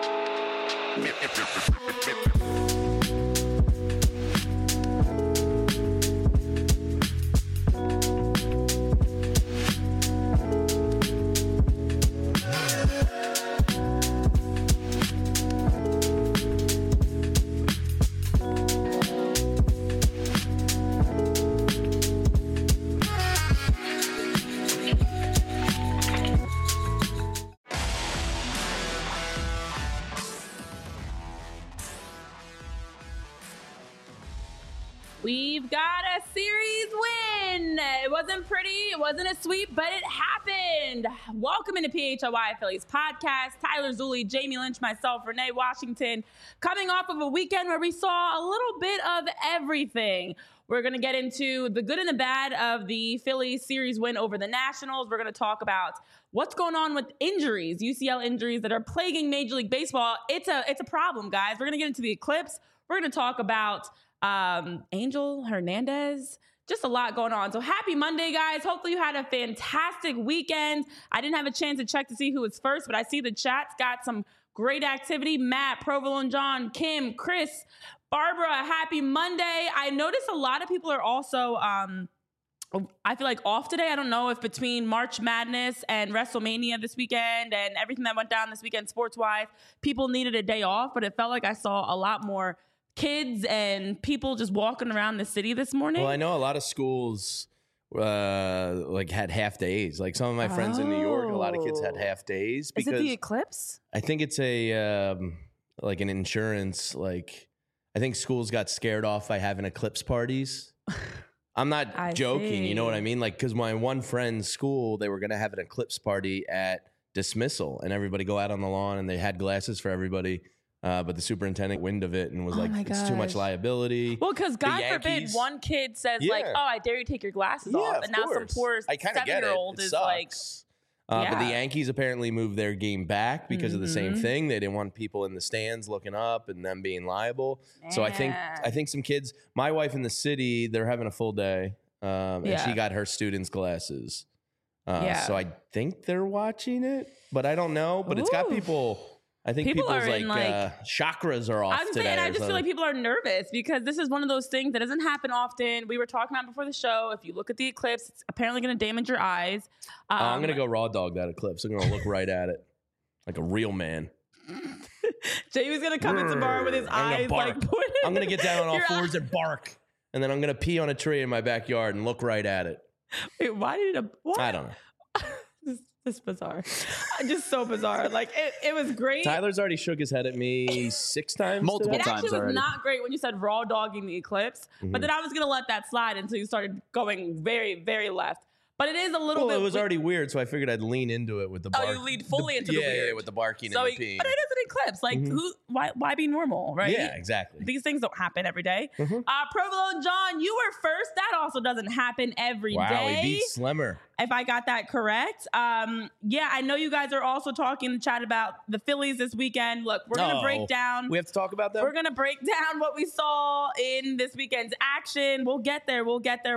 We've got a series win. It wasn't pretty, it wasn't a sweep, but it happened. Welcome into PHLY Phillies podcast. Tyler Zulli, Jamie Lynch, myself, Renee Washington, coming off of a weekend where we saw a little bit of everything. We're going to get into the good and the bad of the Phillies series win over the Nationals. We're going to talk about what's going on with injuries, UCL injuries that are plaguing Major League Baseball. It's a problem, guys. We're going to get into the eclipse. We're going to talk about Angel Hernandez, just a lot going on. So happy Monday, guys. Hopefully you had a fantastic weekend. I didn't have a chance to check to see who was first, but I see the chat's got some great activity. Matt, Provolone John, Kim, Chris, Barbara, happy Monday. I noticed a lot of people are also, I feel like off today. I don't know if between March Madness and WrestleMania this weekend and everything that went down this weekend sports-wise, people needed a day off, but it felt like I saw a lot more kids and people just walking around the city this morning. Well, I know a lot of schools had half days. Like some of my friends in New York, a lot of kids had half days. Is it the eclipse? I think it's a like an insurance. Like I think schools got scared off by having eclipse parties. I'm not joking. See. You know what I mean? Like because my one friend's school, they were going to have an eclipse party at dismissal, and everybody go out on the lawn, and they had glasses for everybody. But the superintendent wind of it and was it's too much liability. Well, because God forbid one kid says I dare you take your glasses off. And now some poor 7-year-old is like, But the Yankees apparently moved their game back because of the same thing. They didn't want people in the stands looking up and them being liable. So I think some kids, my wife in the city, they're having a full day. And she got her students' glasses. So I think they're watching it, but I don't know. But it's got people... I think people's chakras are off today. I just feel like people are nervous because this is one of those things that doesn't happen often. We were talking about before the show. If you look at the eclipse, it's apparently going to damage your eyes. I'm going to go raw dog that eclipse. I'm going to look right at it like a real man. Jamie's going to come into the bar with his eyes like pointed. I'm going to get down on all fours and bark. And then I'm going to pee on a tree in my backyard and look right at it. Wait, why? I don't know. This is bizarre. Just so bizarre. Like, it was great. Tyler's already shook his head at me 6 times. Multiple times already. It actually was not great when you said raw dogging the eclipse. But then I was going to let that slide until you started going very, very left. But it is a little bit... Well, it was already weird, so I figured I'd lean into it with the bark. Oh, you leaned fully into the weird. Yeah, with the barking and the peeing. But it is an eclipse. Like, why be normal, right? Yeah, exactly. These things don't happen every day. Provolone John, you were first. That also doesn't happen every day. Wow, he beat Slimmer. If I got that correct. I know you guys are also talking in the chat about the Phillies this weekend. Look, we're going to break down. We have to talk about them? We're going to break down what we saw in this weekend's action. We'll get there.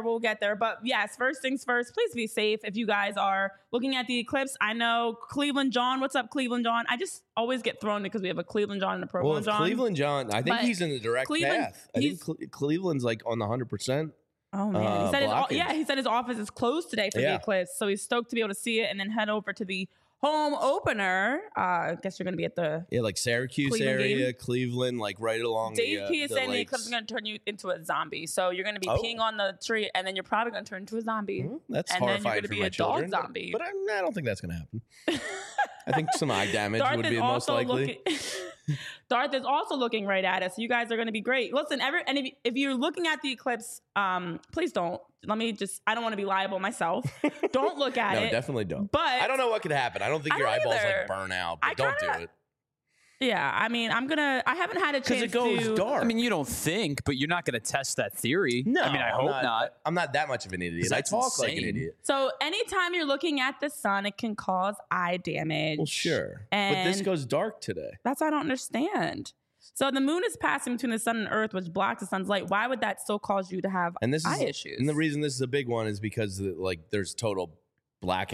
But yes, first things first, please be safe if you guys are looking at the eclipse. I know Cleveland John. What's up, Cleveland John? I just always get thrown because we have a Cleveland John and a Provolone John. Cleveland John, I think he's in the direct path. I think Cleveland's like on the 100%. Oh man, he said his office is closed today for the eclipse, so he's stoked to be able to see it and then head over to the home opener. I guess you're going to be at the like Syracuse Cleveland area, game. Cleveland, like right along. Dave P is saying the eclipse is going to turn you into a zombie, so you're going to be peeing on the tree, and then you're probably going to turn into a zombie. That's and horrifying then you're going to be a children, dog zombie. But I don't think that's going to happen. I think some eye damage would be the most likely. Darth is also looking right at us. You guys are going to be great. Listen, if you're looking at the eclipse, please don't. I don't want to be liable myself. Don't look at it. No, definitely don't. But I don't know what could happen. I don't think your eyeballs like burn out, but don't do it. Yeah, I mean, I haven't had a chance because it goes dark. I mean, you don't think, but you're not going to test that theory. No, I mean, I hope not. I'm not that much of an idiot. I talk like an idiot. So anytime you're looking at the sun, it can cause eye damage. Well, sure. But this goes dark today. That's what I don't understand. So the moon is passing between the sun and earth, which blocks the sun's light. Why would that still cause you to have eye issues? And the reason this is a big one is because there's total blackout.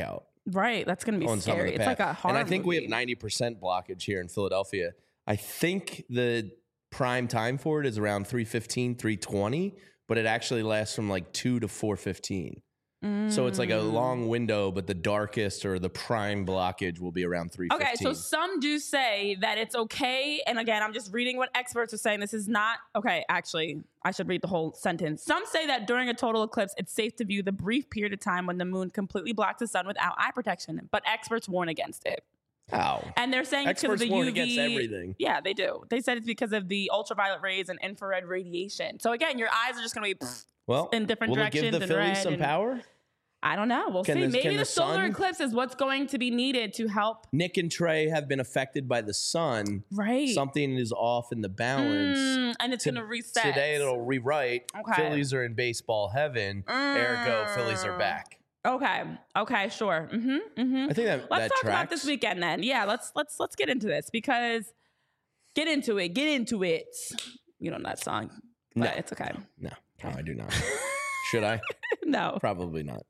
Right. That's going to be on some of scary. the It's path. like a horror And I think movie. we have 90% blockage here in Philadelphia. I think the prime time for it is around 3:15, 3:20, but it actually lasts from like 2 to 4:15. So it's like a long window, but the darkest or the prime blockage will be around 3:15. Okay, so some do say that it's okay. And again, I'm just reading what experts are saying. This is not okay. Actually, I should read the whole sentence. Some say that during a total eclipse, it's safe to view the brief period of time when the moon completely blocks the sun without eye protection. But experts warn against it. How? And they're saying it's because of Experts the warn UV. against everything. Yeah, they do. They said it's because of the ultraviolet rays and infrared radiation. So again, your eyes are just going to be Well, in different will directions it give the and Phillies red some and- power? I don't know. We'll Can see. the- Maybe can the the solar sun- eclipse is what's going to be needed to help. Nick and Trey have been affected by the sun. Right. Something is off in the balance. And it's going to reset. Today it'll rewrite. Okay. Phillies are in baseball heaven. Ergo, Phillies are back. Okay. Okay. Sure. I think that Let's talk about tracks. this weekend then. Yeah. Let's get into this because get into it. Get into it. You know that song, but No. it's okay. No, I do not. Should I? No. Probably not.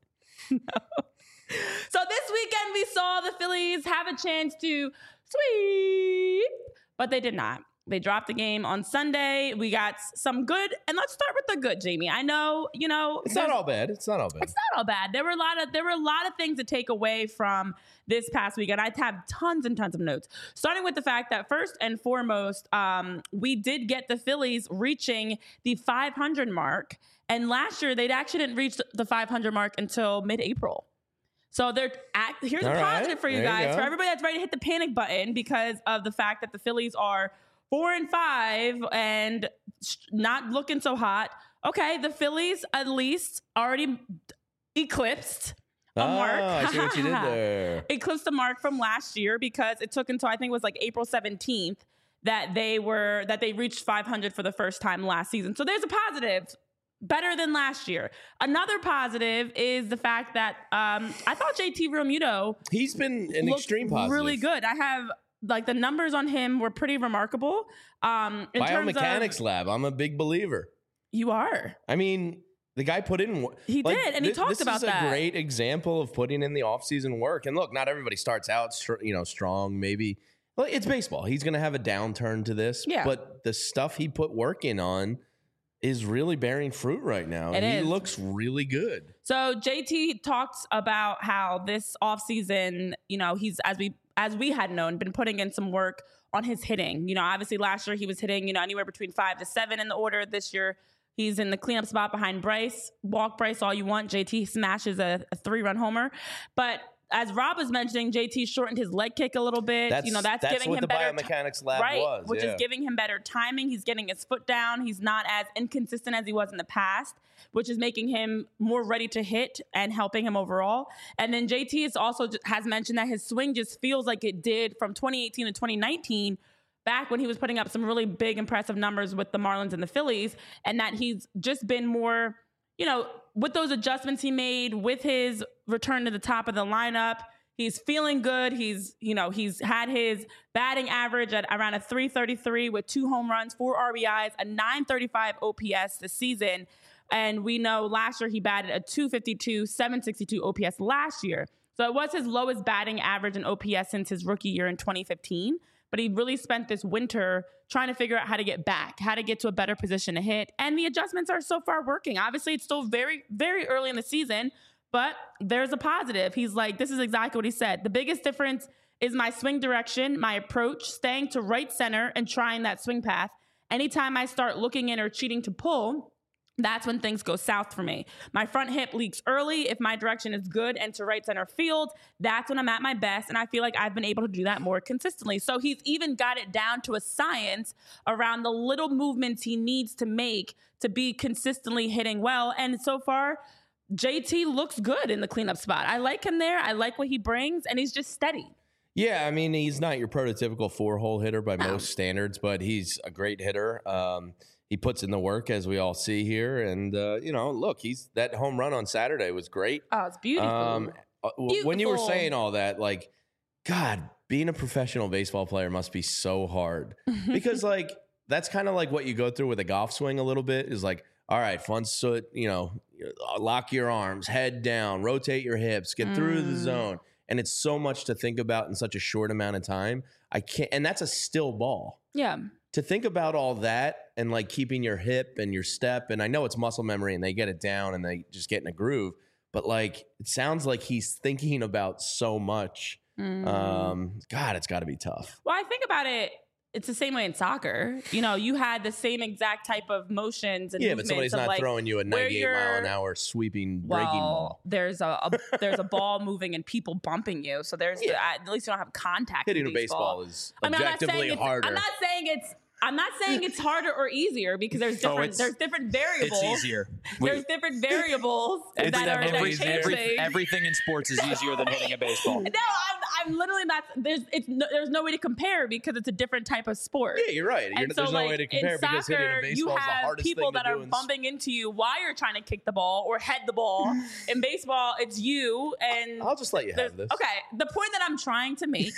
So this weekend we saw the Phillies have a chance to sweep, but they did not. They dropped the game on Sunday. We got some good, and let's start with the good, Jamie. I know, It's not all bad. It's not all bad. It's not all bad. There were a lot of things to take away from this past weekend. I have tons and tons of notes, starting with the fact that first and foremost, we did get the Phillies reaching the 500 mark, and last year they actually didn't reach the 500 mark until mid-April. So here's All a right. positive for you There you guys, go. for everybody that's ready to hit the panic button because of the fact that the Phillies are 4-5 and not looking so hot. Okay, the Phillies at least already eclipsed a mark. I see what you did there. Eclipsed the mark from last year because it took until I think it was like April 17th that they reached 500 for the first time last season. So there's a positive. Better than last year. Another positive is the fact that I thought JT Realmuto He's been an looked extreme positive. really good. I have the numbers on him were pretty remarkable. In terms Biomechanics of, lab. I'm a big believer. you are. I mean, the guy put in work. He did, and he talked about This is that. a great example of putting in the offseason work. And look, not everybody starts out, strong. Maybe, well, it's baseball. He's going to have a downturn to this. Yeah. But the stuff he put work in on is really bearing fruit right now. It He is. looks really good. So JT talked about how this offseason, he's as we had known, been putting in some work on his hitting. Obviously last year he was hitting, anywhere between 5 to 7 in the order. This year he's in the cleanup spot behind Bryce. Walk Bryce all you want. JT smashes a 3-run homer. But as Rob was mentioning, JT shortened his leg kick a little bit. That's giving what him the better biomechanics lab right, was. which yeah. is giving him better timing. He's getting his foot down. He's not as inconsistent as he was in the past, which is making him more ready to hit and helping him overall. And then JT has mentioned that his swing just feels like it did from 2018 to 2019, back when he was putting up some really big, impressive numbers with the Marlins and the Phillies, and that he's just been more, with those adjustments he made, with his return to the top of the lineup. He's feeling good. He's had his batting average at around a 333 with 2 home runs, 4 RBIs, a 935 OPS this season. And we know last year he batted a 252, 762 OPS last year. So it was his lowest batting average in OPS since his rookie year in 2015. But he really spent this winter trying to figure out how to get back, how to get to a better position to hit. And the adjustments are so far working. Obviously, it's still very, very early in the season, but there's a positive. He's like, this is exactly what he said. The biggest difference is my swing direction, my approach, staying to right center and trying that swing path. Anytime I start looking in or cheating to pull, that's when things go south for me. My front hip leaks early. If my direction is good and to right center field, that's when I'm at my best. And I feel like I've been able to do that more consistently. So he's even got it down to a science around the little movements he needs to make to be consistently hitting well. And so far, JT looks good in the cleanup spot. I like him there. I like what he brings, and he's just steady. Yeah, I mean, he's not your prototypical 4-hole hitter by most standards, but he's a great hitter. He puts in the work, as we all see here. And, look, that home run on Saturday was great. Oh, it's beautiful. When you were Beautiful. saying all that, like, God, being a professional baseball player must be so hard. Because, that's kind of like what you go through with a golf swing a little bit is like, all right, lock your arms, head down, rotate your hips, get through the zone. and it's so much to think about in such a short amount of time. I can't, and that's a still ball. Yeah. To think about all that and like keeping your hip and your step, and I know it's muscle memory and they get it down and they just get in a groove, but like it sounds like he's thinking about so much. God, it's got to be tough. Well, I think about it. It's the same way in soccer. You know, you had the same exact type of motions and but somebody's not like throwing you a 98 mile an hour sweeping breaking ball. There's a ball moving and people bumping you. So there's at least you don't have contact. Hitting a baseball is objectively harder. I'm not saying it's harder or easier because there's different variables. It's easier. There's different variables that changing. Everything in sports is easier than hitting a baseball. No, I'm literally not. There's no way to compare because it's a different type of sport. Yeah, you're right. There's no way to compare because hitting a baseball is the hardest thing to do. You have people that are bumping into you while you're trying to kick the ball or head the ball. In baseball, it's you and. I'll just let you have this. Okay, the point that I'm trying to make.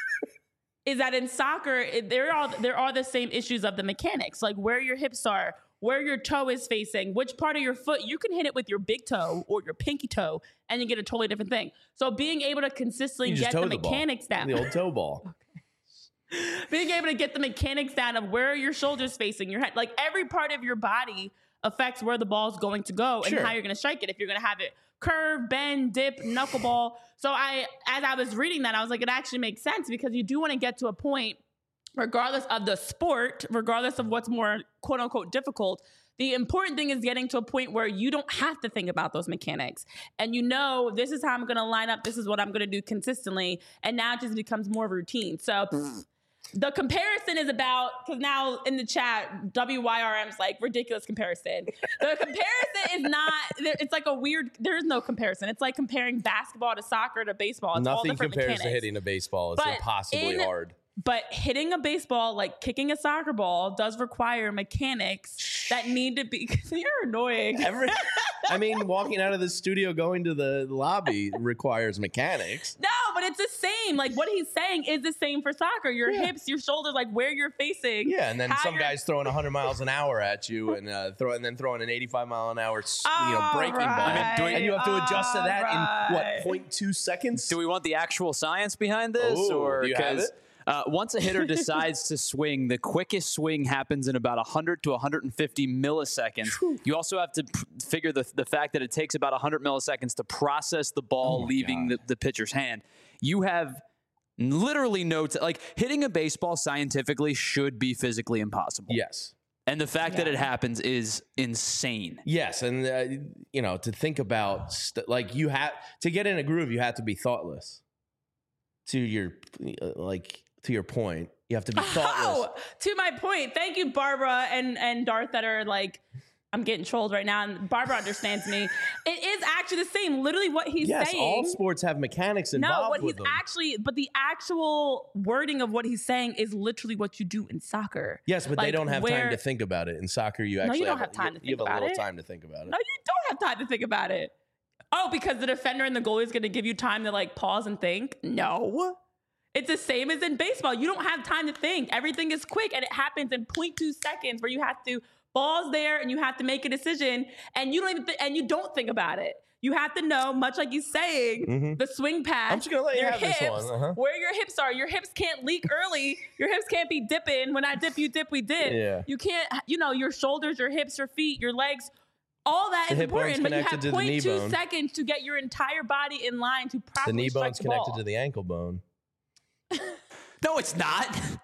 Is that in soccer, there are the same issues of the mechanics, like where your hips are, where your toe is facing, which part of your foot. You can hit it with your big toe or your pinky toe, and you get a totally different thing. So being able to consistently get the mechanics down. The old toe ball. Okay. Being able to get the mechanics down of where your shoulders facing, your head, like every part of your body affects where the ball is going to go and how you're going to strike it. If you're going to have it curve, bend, dip, knuckleball. So as I was reading that, I was like, it actually makes sense because you do want to get to a point, regardless of the sport, regardless of what's more quote unquote difficult. The important thing is getting to a point where you don't have to think about those mechanics. And you know, this is how I'm going to line up. This is what I'm going to do consistently. And now it just becomes more routine. So the comparison is about, because now in the chat, WYRM's like ridiculous comparison. The comparison is not, it's like a weird, there is no comparison. It's like comparing basketball to soccer to baseball. It's Nothing all different compares mechanics. to hitting a baseball. It's impossibly hard. But hitting a baseball, like kicking a soccer ball, does require mechanics that need to be, because you're annoying. Walking out of the studio, going to the lobby requires mechanics. No, but it's the same. Like what he's saying is the same for soccer. Your hips, your shoulders, like where you're facing. Yeah, and then some guy's throwing 100 miles an hour at you and throwing an 85 mile an hour breaking ball. And you have to adjust to that in 0.2 seconds? Do we want the actual science behind this? Do you have it? Once a hitter decides to swing, the quickest swing happens in about 100 to 150 milliseconds. You also have to figure the fact that it takes about 100 milliseconds to process the ball leaving the pitcher's hand. You have literally no like hitting a baseball scientifically should be physically impossible. Yes. And the fact that it happens is insane. Yes, and to think about you have to get in a groove, you have to be thoughtless. To your point, you have to be thoughtless. To my point. Thank you, Barbara and Darth, that are like, I'm getting trolled right now, and Barbara understands me. It is actually the same. Literally what he's saying. Yes, all sports have mechanics involved with them. But the actual wording of what he's saying is literally what you do in soccer. Yes, but they don't have time to think about it. In soccer, you don't have time to think about it. You have a little time to think about it. No, you don't have time to think about it. Oh, because the defender and the goalie is going to give you time to like pause and think? No. It's the same as in baseball. You don't have time to think. Everything is quick, and it happens in 0.2 seconds where you have to balls there and you have to make a decision, and you don't even and you don't think about it. You have to know, much like he's saying, the swing path. I'm just gonna let you have this one. Where your hips are. Your hips can't leak early. Your hips can't be dipping. When I dip, you dip. We dip. Yeah. You can't. Your shoulders, your hips, your feet, your legs. All that is important, but you have 0.2 seconds to get your entire body in line to properly strike the ball. The knee bone's connected to the ankle bone. No, it's not.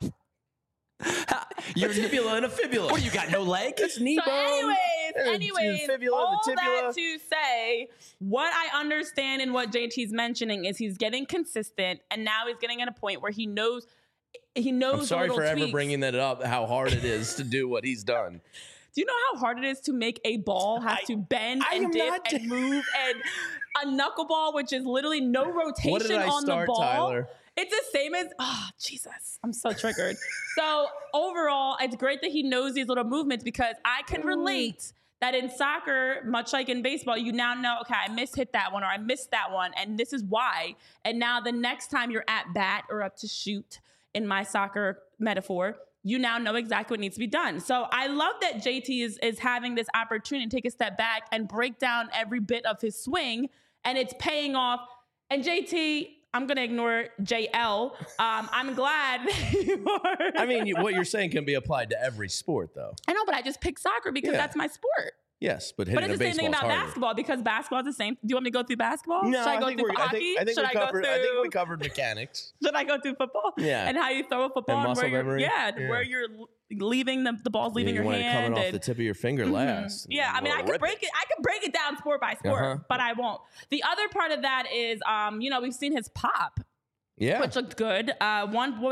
Your tibula and a fibula. What, you got no leg? It's knee bone. Anyways, fibula, all the tibula. that to say, what I understand and what JT's mentioning is he's getting consistent, and now he's getting at a point where he knows. I'm sorry for ever bringing that up. How hard it is to do what he's done. Do you know how hard it is to make a ball have to bend and dip and move, and a knuckleball, which is literally no rotation on the ball? Tyler? It's the same as, Jesus, I'm so triggered. So overall, it's great that he knows these little movements, because I can relate that in soccer, much like in baseball, you now know, okay, I hit that one or I missed that one, and this is why. And now the next time you're at bat or up to shoot, in my soccer metaphor, you now know exactly what needs to be done. So I love that JT is having this opportunity to take a step back and break down every bit of his swing, and it's paying off. And JT, I'm going to ignore JL. I'm glad you are. I mean, what you're saying can be applied to every sport, though. I know, but I just picked soccer because that's my sport. Yes, but it's the same thing about basketball because basketball is the same. Do you want me to go through basketball? No, Should I go through hockey? I think we covered mechanics. Should I go through football? Yeah. And how you throw a football and muscle memory. Where you're leaving the ball's leaving your hand. Coming off the tip of your finger last. Yeah, I mean, I could break it down sport by sport, but I won't. The other part of that is, we've seen his pop. Yeah. Which looked good. A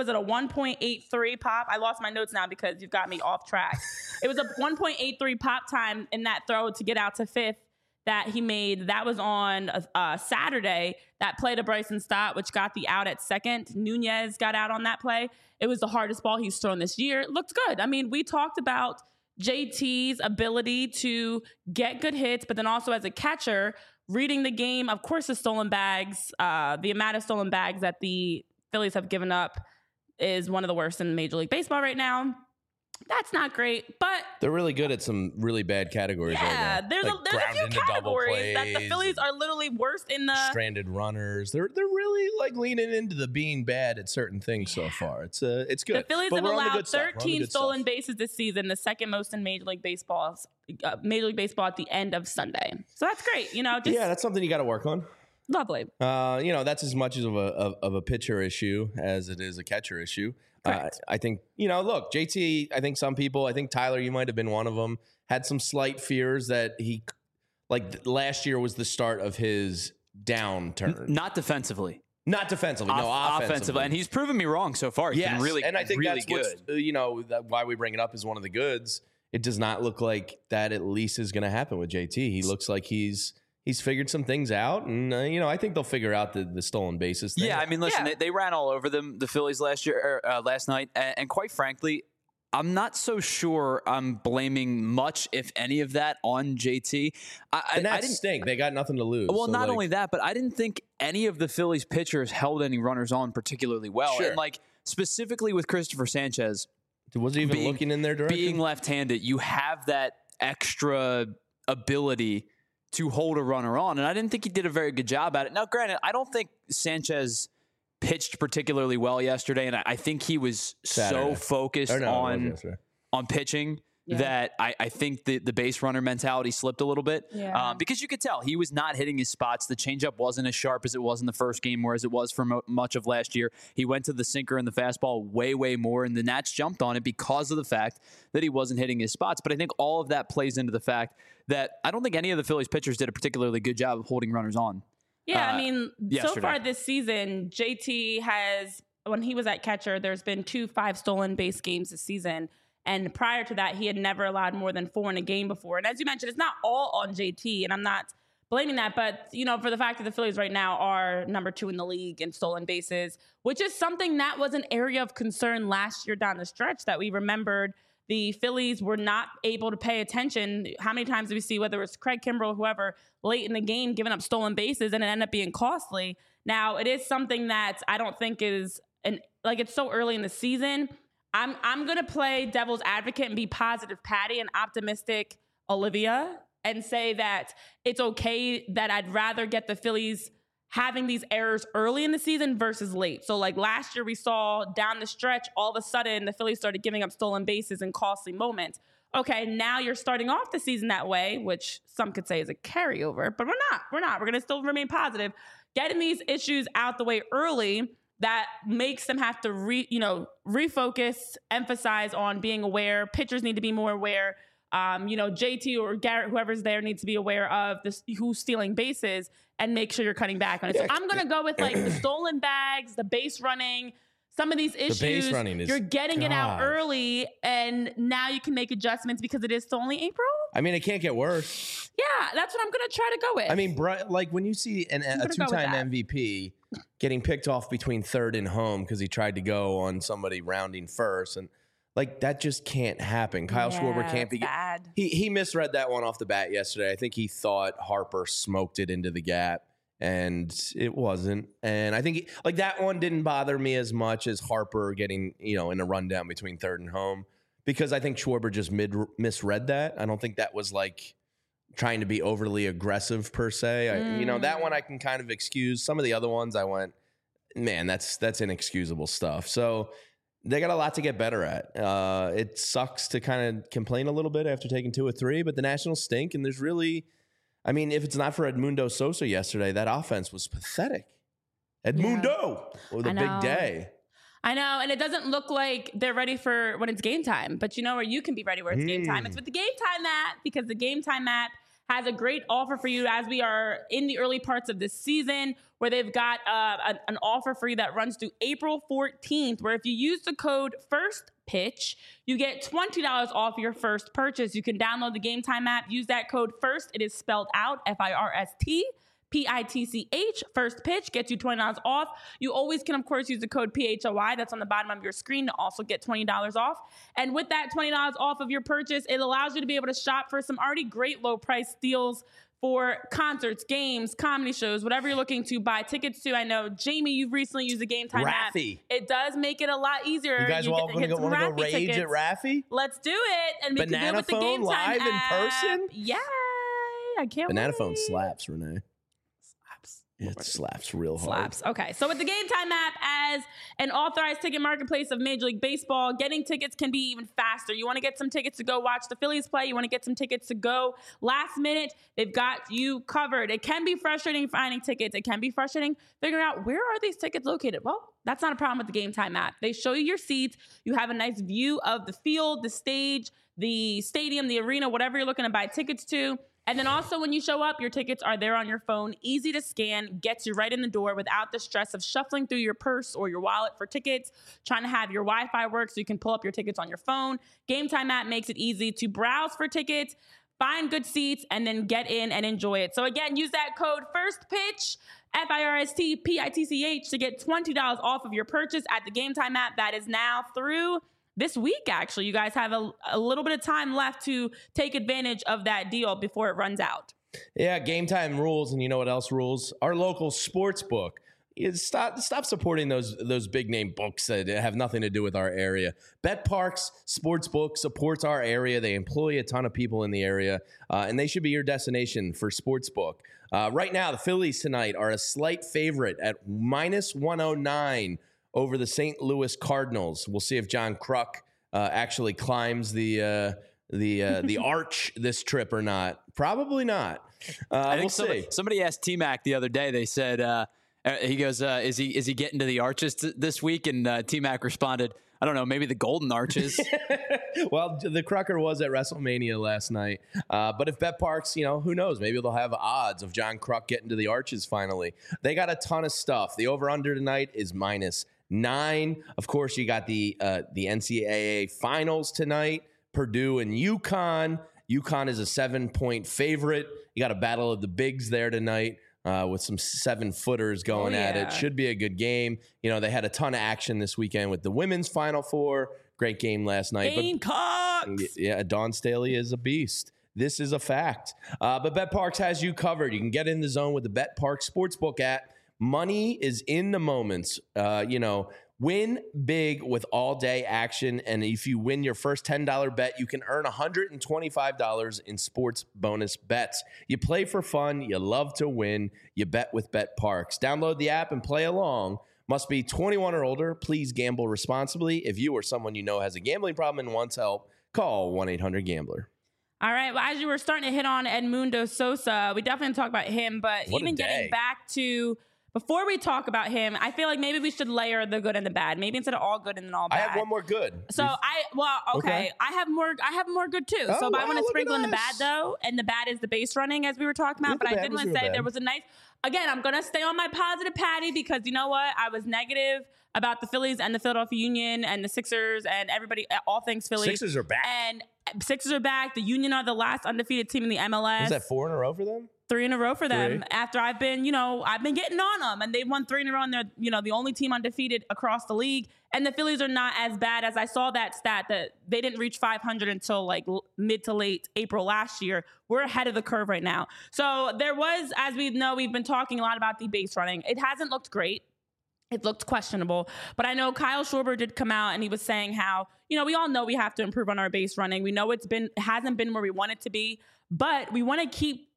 1.83 pop? I lost my notes now because you've got me off track. It was a 1.83 pop time in that throw to get out to fifth that he made. That was on Saturday. That play to Bryson Stott, which got the out at second. Nunez got out on that play. It was the hardest ball he's thrown this year. It looked good. I mean, we talked about JT's ability to get good hits, but then also as a catcher, reading the game, of course, the stolen bags, the amount of stolen bags that the Phillies have given up is one of the worst in Major League Baseball right now. That's not great, but they're really good at some really bad categories right now. Yeah, there's a few categories that the Phillies are literally worst in the stranded runners. They're really like leaning into the being bad at certain things so far. It's good. The Phillies have allowed 13 stolen bases this season, the second most in Major League Baseball at the end of Sunday. So that's great. That's something you got to work on. Lovely. That's as much of a pitcher issue as it is a catcher issue. I think, look, JT, I think Tyler, you might have been one of them, had some slight fears that last year was the start of his downturn. Not defensively. Not defensively, offensively. And he's proven me wrong so far. He's been really, and I think really that's good. why we bring it up as one of the goods. It does not look like that at least is going to happen with JT. He looks like he's figured some things out, and I think they'll figure out the stolen bases thing. Yeah, I mean, listen, they ran all over them, the Phillies last night, and quite frankly, I'm not so sure I'm blaming much, if any of that, on JT. I didn't stink. They got nothing to lose. Well, not only that, but I didn't think any of the Phillies pitchers held any runners on particularly well. Sure. And specifically with Christopher Sanchez, was he even looking in their direction? Being left-handed, you have that extra ability to hold a runner on, and I didn't think he did a very good job at it. Now, granted, I don't think Sanchez pitched particularly well yesterday, and I think he was so focused on pitching that I think the base runner mentality slipped a little bit. Because you could tell he was not hitting his spots. The changeup wasn't as sharp as it was in the first game, whereas it was for much of last year. He went to the sinker and the fastball way, way more, and the Nats jumped on it because of the fact that he wasn't hitting his spots. But I think all of that plays into the fact that I don't think any of the Phillies pitchers did a particularly good job of holding runners on. Yeah, I mean, yesterday. So far this season, JT has, when he was at catcher, there's been 5 stolen base games this season. And prior to that, he had never allowed more than 4 in a game before. And as you mentioned, it's not all on JT, and I'm not blaming that. But, for the fact that the Phillies right now are number 2 in the league in stolen bases, which is something that was an area of concern last year down the stretch that we remembered. The Phillies were not able to pay attention. How many times do we see, whether it's Craig Kimbrell or whoever, late in the game giving up stolen bases, and it ended up being costly? Now, it is something that I don't think is, it's so early in the season. I'm going to play devil's advocate and be positive Patty and optimistic Olivia and say that it's okay that I'd rather get the Phillies having these errors early in the season versus late. So last year we saw down the stretch, all of a sudden the Phillies started giving up stolen bases in costly moments. Okay, now you're starting off the season that way, which some could say is a carryover, but we're not. We're going to still remain positive. Getting these issues out the way early, that makes them have to refocus, emphasize on being aware. Pitchers need to be more aware. JT or Garrett, whoever's there, needs to be aware of who's stealing bases and make sure you're cutting back on it. So I'm going to go with the stolen bags, the base running, some of these issues. The base running is, you're getting it out early, and now you can make adjustments because it is still only April. I mean, it can't get worse. Yeah, that's what I'm going to try to go with. I mean, when you see a 2-time MVP getting picked off between third and home because he tried to go on somebody rounding first, and that just can't happen. Kyle Schwarber can't be bad. He misread that one off the bat yesterday. I think he thought Harper smoked it into the gap, and it wasn't. And I think that one didn't bother me as much as Harper getting in a rundown between third and home, because I think Schwarber just misread that. I don't think that was trying to be overly aggressive per se. That one I can kind of excuse. Some of the other ones I went, man, that's inexcusable stuff. So they got a lot to get better at. It sucks to kind of complain a little bit after taking 2 or 3, but the Nationals stink. And there's really, I mean, if it's not for Edmundo Sosa yesterday, that offense was pathetic. Edmundo with a big day. I know, and it doesn't look like they're ready for when it's game time. But you know where you can be ready where it's game time? It's with the Game Time app, because the Game Time app has a great offer for you as we are in the early parts of this season, where they've got an offer for you that runs through April 14th, where if you use the code FIRSTPITCH, you get $20 off your first purchase. You can download the Game Time app, use that code FIRST. It is spelled out, FIRSTPITCH, First Pitch gets you $20 off. You always can, of course, use the code PHOY that's on the bottom of your screen to also get $20 off. And with that $20 off of your purchase, it allows you to be able to shop for some already great low price deals for concerts, games, comedy shows, whatever you're looking to buy tickets to. I know, Jamie, you've recently used the Game Time app. It does make it a lot easier. You guys all want to go rage tickets at Raffy? Let's do it. And we can do it with the Game Time live in person? Yay! I can't wait. Banana Phone slaps, Renee. It slaps real hard. Okay. So with the Game Time app, as an authorized ticket marketplace of Major League Baseball, getting tickets can be even faster. You want to get some tickets to go watch the Phillies play. You want to get some tickets to go last minute. They've got you covered. It can be frustrating finding tickets. It can be frustrating figuring out where are these tickets located. Well, that's not a problem with the Game Time app. They show you your seats. You have a nice view of the field, the stage, the stadium, the arena, whatever you're looking to buy tickets to. And then also when you show up, your tickets are there on your phone, easy to scan, gets you right in the door without the stress of shuffling through your purse or your wallet for tickets, trying to have your Wi-Fi work so you can pull up your tickets on your phone. Game Time app makes it easy to browse for tickets, find good seats, and then get in and enjoy it. So again, use that code FIRSTPITCH, FIRSTPITCH, to get $20 off of your purchase at the Game Time app. That is now through this week, actually. You guys have a little bit of time left to take advantage of that deal before it runs out. Yeah, Game Time rules, and you know what else rules? Our local sports book. Stop supporting those big name books that have nothing to do with our area. BetParx Sportsbook supports our area. They employ a ton of people in the area, and they should be your destination for sportsbook. Right now, the Phillies tonight are a slight favorite at -109 over the St. Louis Cardinals. We'll see if John Kruk actually climbs the arch this trip or not. Probably not. I think somebody asked T-Mac the other day. They said he goes, "Is he getting to the arches this week?" And T-Mac responded, "I don't know, maybe the golden arches." Well, the Crucker was at WrestleMania last night. But if BetParx, who knows? Maybe they'll have odds of John Kruk getting to the arches finally. They got a ton of stuff. The over-under tonight is -9. Of course, you got the NCAA finals tonight, Purdue and UConn. UConn is a 7-point favorite. You got a battle of the bigs there tonight with some 7-footers going at it. Should be a good game. They had a ton of action this weekend with the women's Final Four. Great game last night. Gamecocks! Yeah, Dawn Staley is a beast. This is a fact. But BetParx has you covered. You can get in the zone with the BetParx Sportsbook app. Money is in the moments. Win big with all-day action, and if you win your first $10 bet, you can earn $125 in sports bonus bets. You play for fun. You love to win. You bet with BetParx. Download the app and play along. Must be 21 or older. Please gamble responsibly. If you or someone you know has a gambling problem and wants help, call 1-800-GAMBLER. All right. Well, as you were starting to hit on Edmundo Sosa, we definitely talk about him, but even getting back to... Before we talk about him, I feel like maybe we should layer the good and the bad. Maybe instead of all good and then all bad. I have one more good. So okay. I have more good too. I want to sprinkle in the bad though, and the bad is the base running as we were talking about. But I did want to say there was a nice. Again, I'm gonna stay on my positive patty because you know what? I was negative about the Phillies and the Philadelphia Union and the Sixers and everybody, all things Philly. Sixers are back. And Sixers are back. The Union are the last undefeated team in the MLS. Is that 4 in a row for them? 3 in a row for them. After I've been getting on them, and they've won 3 in a row, and they're, the only team undefeated across the league. And the Phillies are not as bad as I saw that stat that they didn't reach 500 until like mid to late April last year. We're ahead of the curve right now. So there was, as we know, we've been talking a lot about the base running. It hasn't looked great. It looked questionable, but I know Kyle Schwarber did come out and he was saying how, we all know we have to improve on our base running. We know it hasn't been where we want it to be, but we want to keep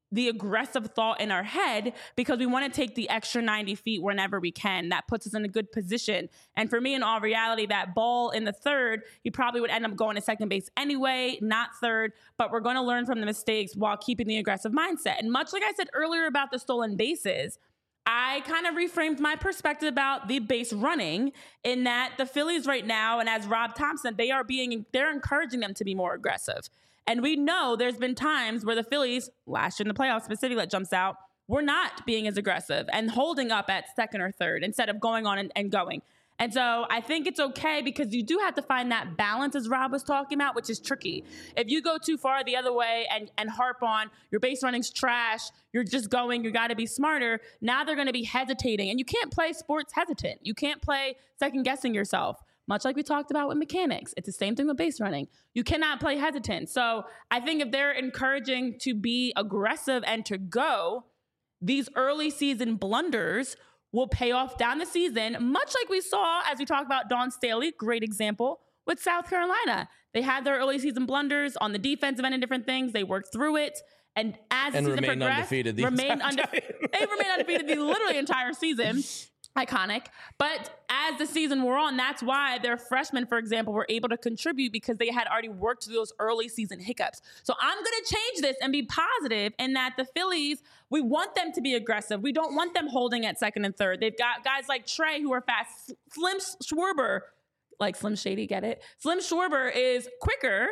the aggressive thought in our head because we want to take the extra 90 feet whenever we can. That puts us in a good position. And for me, in all reality, that ball in the third, he probably would end up going to second base anyway, not third, but we're going to learn from the mistakes while keeping the aggressive mindset. And much like I said earlier about the stolen bases, I kind of reframed my perspective about the base running in that the Phillies right now, and as Rob Thompson, they're encouraging them to be more aggressive. And we know there's been times where the Phillies, last year in the playoffs specifically, that jumps out, were not being as aggressive and holding up at second or third instead of going on and going. And so I think it's okay because you do have to find that balance, as Rob was talking about, which is tricky. If you go too far the other way and harp on your base running's trash, you're just going, you got to be smarter. Now they're going to be hesitating. And you can't play sports hesitant. You can't play second guessing yourself. Much like we talked about with mechanics. It's the same thing with base running. You cannot play hesitant. So I think if they're encouraging to be aggressive and to go, these early season blunders will pay off down the season, much like we saw as we talked about Dawn Staley, great example, with South Carolina. They had their early season blunders on the defensive end and different things. They worked through it. And as the season progressed, they remained undefeated the literally entire season. Iconic. But as the season wore on, that's why their freshmen, for example, were able to contribute because they had already worked through those early season hiccups. So I'm going to change this and be positive in that the Phillies, we want them to be aggressive. We don't want them holding at second and third. They've got guys like Trey who are fast. Slim Schwarber, like Slim Shady, get it? Slim Schwarber is quicker.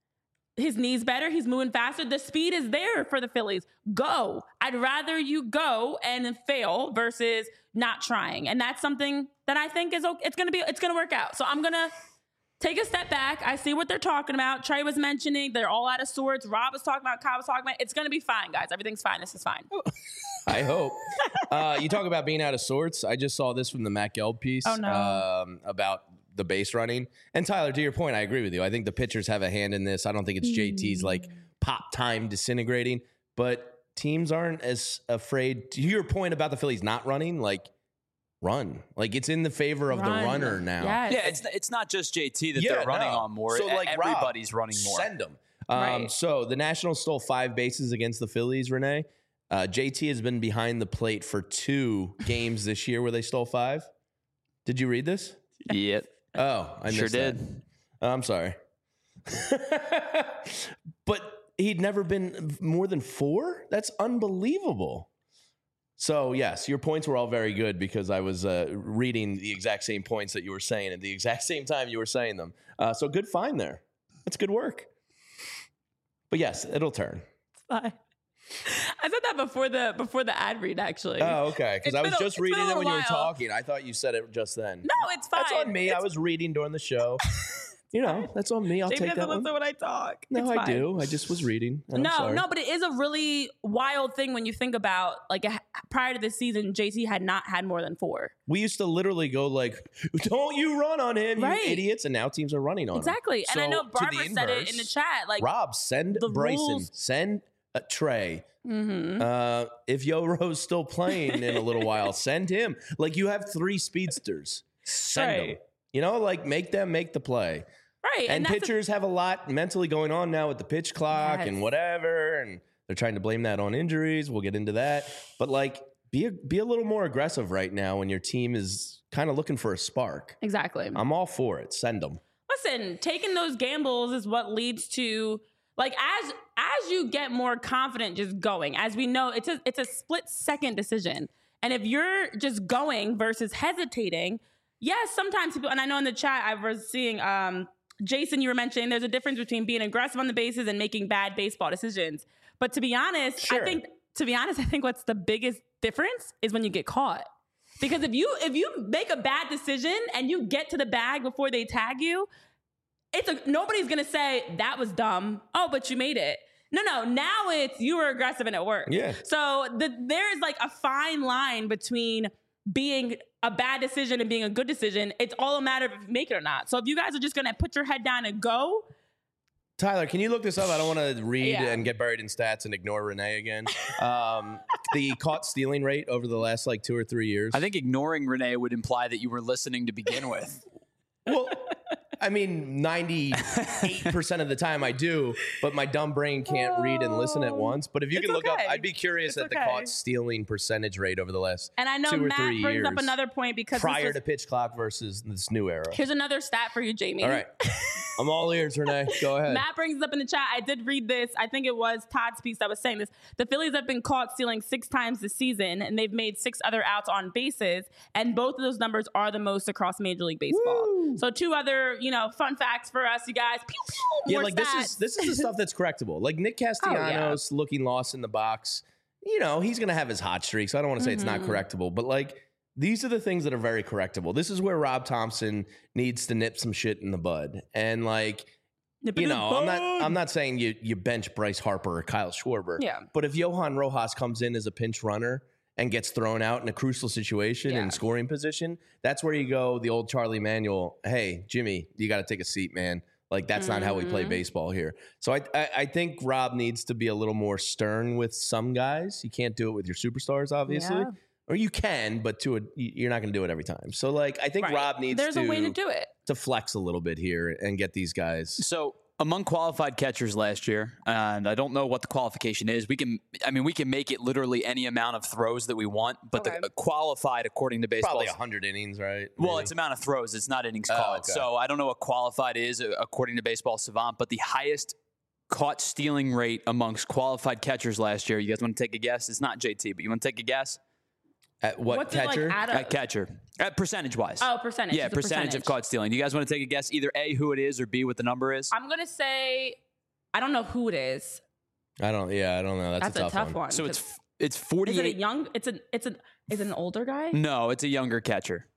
His knee's better. He's moving faster. The speed is there for the Phillies. Go. I'd rather you go and fail versus not trying. And that's something that I think is okay. It's going to work out. So I'm going to take a step back. I see what they're talking about. Trey was mentioning they're all out of sorts. Rob was talking about, Kyle was talking about. It's going to be fine, guys. Everything's fine. This is fine. I hope. You talk about being out of sorts. I just saw this from the Matt Gelb piece about the base running. And Tyler, to your point, I agree with you. I think the pitchers have a hand in this. I don't think it's JT's like pop time disintegrating, but teams aren't as afraid. To your point about the Phillies not running, like run. Like it's in the favor of the runner now. Yes. Yeah, it's not just JT that they're running on more. So like everybody's Rob, running more. Send them. So the Nationals stole 5 bases against the Phillies, Renee. JT has been behind the plate for 2 games this year where they stole 5. Did you read this? Yep. Oh, I missed sure that. did. I'm sorry. But he'd never been more than 4? That's unbelievable. So, yes, your points were all very good because I was reading the exact same points that you were saying at the exact same time you were saying them. So good find there. That's good work. But, yes, it'll turn. It's fine. I said that before the ad read, actually. Oh, okay. Because I was just reading it when you were talking. I thought you said it just then. No, it's fine. That's on me. I was reading during the show. You know, that's on me. I'll take that one. Listen when I talk. No, I do. I just was reading. No, but it is a really wild thing when you think about, like, prior to this season, JT had not had more than 4. We used to literally go like, don't you run on him, you idiots. And now teams are running on him. Exactly. And I know Barbara said it in the chat. Like, Rob, send Bryson. Rules. Send Trey. Mm-hmm. If Yoro's still playing in a little while, send him. Like, you have 3 speedsters. Send them. You know, like, make them make the play. Right. And pitchers have a lot mentally going on now with the pitch clock and whatever. And they're trying to blame that on injuries. We'll get into that. But, like, be a little more aggressive right now when your team is kind of looking for a spark. Exactly. I'm all for it. Send them. Listen, taking those gambles is what leads to, like, as you get more confident just going. As we know, it's a split-second decision. And if you're just going versus hesitating, yes, sometimes people, and I know in the chat I was seeing Jason, you were mentioning there's a difference between being aggressive on the bases and making bad baseball decisions. But to be honest, I think what's the biggest difference is when you get caught. Because if you make a bad decision and you get to the bag before they tag you, nobody's gonna say that was dumb. Oh, but you made it. No. Now it's you were aggressive and it worked. Yeah. So there's like a fine line between being a bad decision and being a good decision. It's all a matter of if you make it or not. So if you guys are just going to put your head down and go. Tyler, can you look this up? I don't want to read and get buried in stats and ignore Renee again. The caught stealing rate over the last like 2 or 3 years. I think ignoring Renee would imply that you were listening to begin with. Well, I mean, 98% of the time I do, but my dumb brain can't read and listen at once. But if you can look up, I'd be curious at the caught stealing percentage rate over the last and I know 2 or Matt 3 brings years. up another point because prior to pitch clock versus this new era. Here's another stat for you, Jamie. All right. I'm all ears, Renee. Go ahead. Matt brings up in the chat. I did read this. I think it was Todd's piece that was saying this. The Phillies have been caught stealing 6 times this season, and they've made 6 other outs on bases, and both of those numbers are the most across Major League Baseball. Woo. So 2 other, fun facts for us, you guys. Pew, pew, yeah, like stats. this is the stuff that's correctable. Like Nick Castellanos looking lost in the box. He's going to have his hot streaks. I don't want to say it's not correctable, but like these are the things that are very correctable. This is where Rob Thompson needs to nip some shit in the bud. And like, I'm not saying you bench Bryce Harper or Kyle Schwarber. Yeah. But if Johan Rojas comes in as a pinch runner and gets thrown out in a crucial situation in scoring position, that's where you go the old Charlie Manuel, hey, Jimmy, you got to take a seat, man. Like, that's not how we play baseball here. So I think Rob needs to be a little more stern with some guys. You can't do it with your superstars, obviously. Yeah. Or you can, but you're not going to do it every time. So, like, I think Rob needs There's a way to do it. To flex a little bit here and get these guys. So, among qualified catchers last year, and I don't know what the qualification is. We can make it literally any amount of throws that we want, but the qualified according to baseball, probably 100 innings, right? Well, maybe. It's amount of throws. It's not innings caught. Okay. So I don't know what qualified is according to Baseball Savant, but the highest caught stealing rate amongst qualified catchers last year. You guys want to take a guess? It's not JT, but you want to take a guess? At what catcher? At catcher. Percentage-wise. Oh, percentage. Yeah, percentage of caught stealing. Do you guys want to take a guess? Either A, who it is, or B, what the number is? I'm going to say, I don't know who it is. I don't know. That's a tough one. So it's 48. Is it a young? Is it an older guy? No, it's a younger catcher.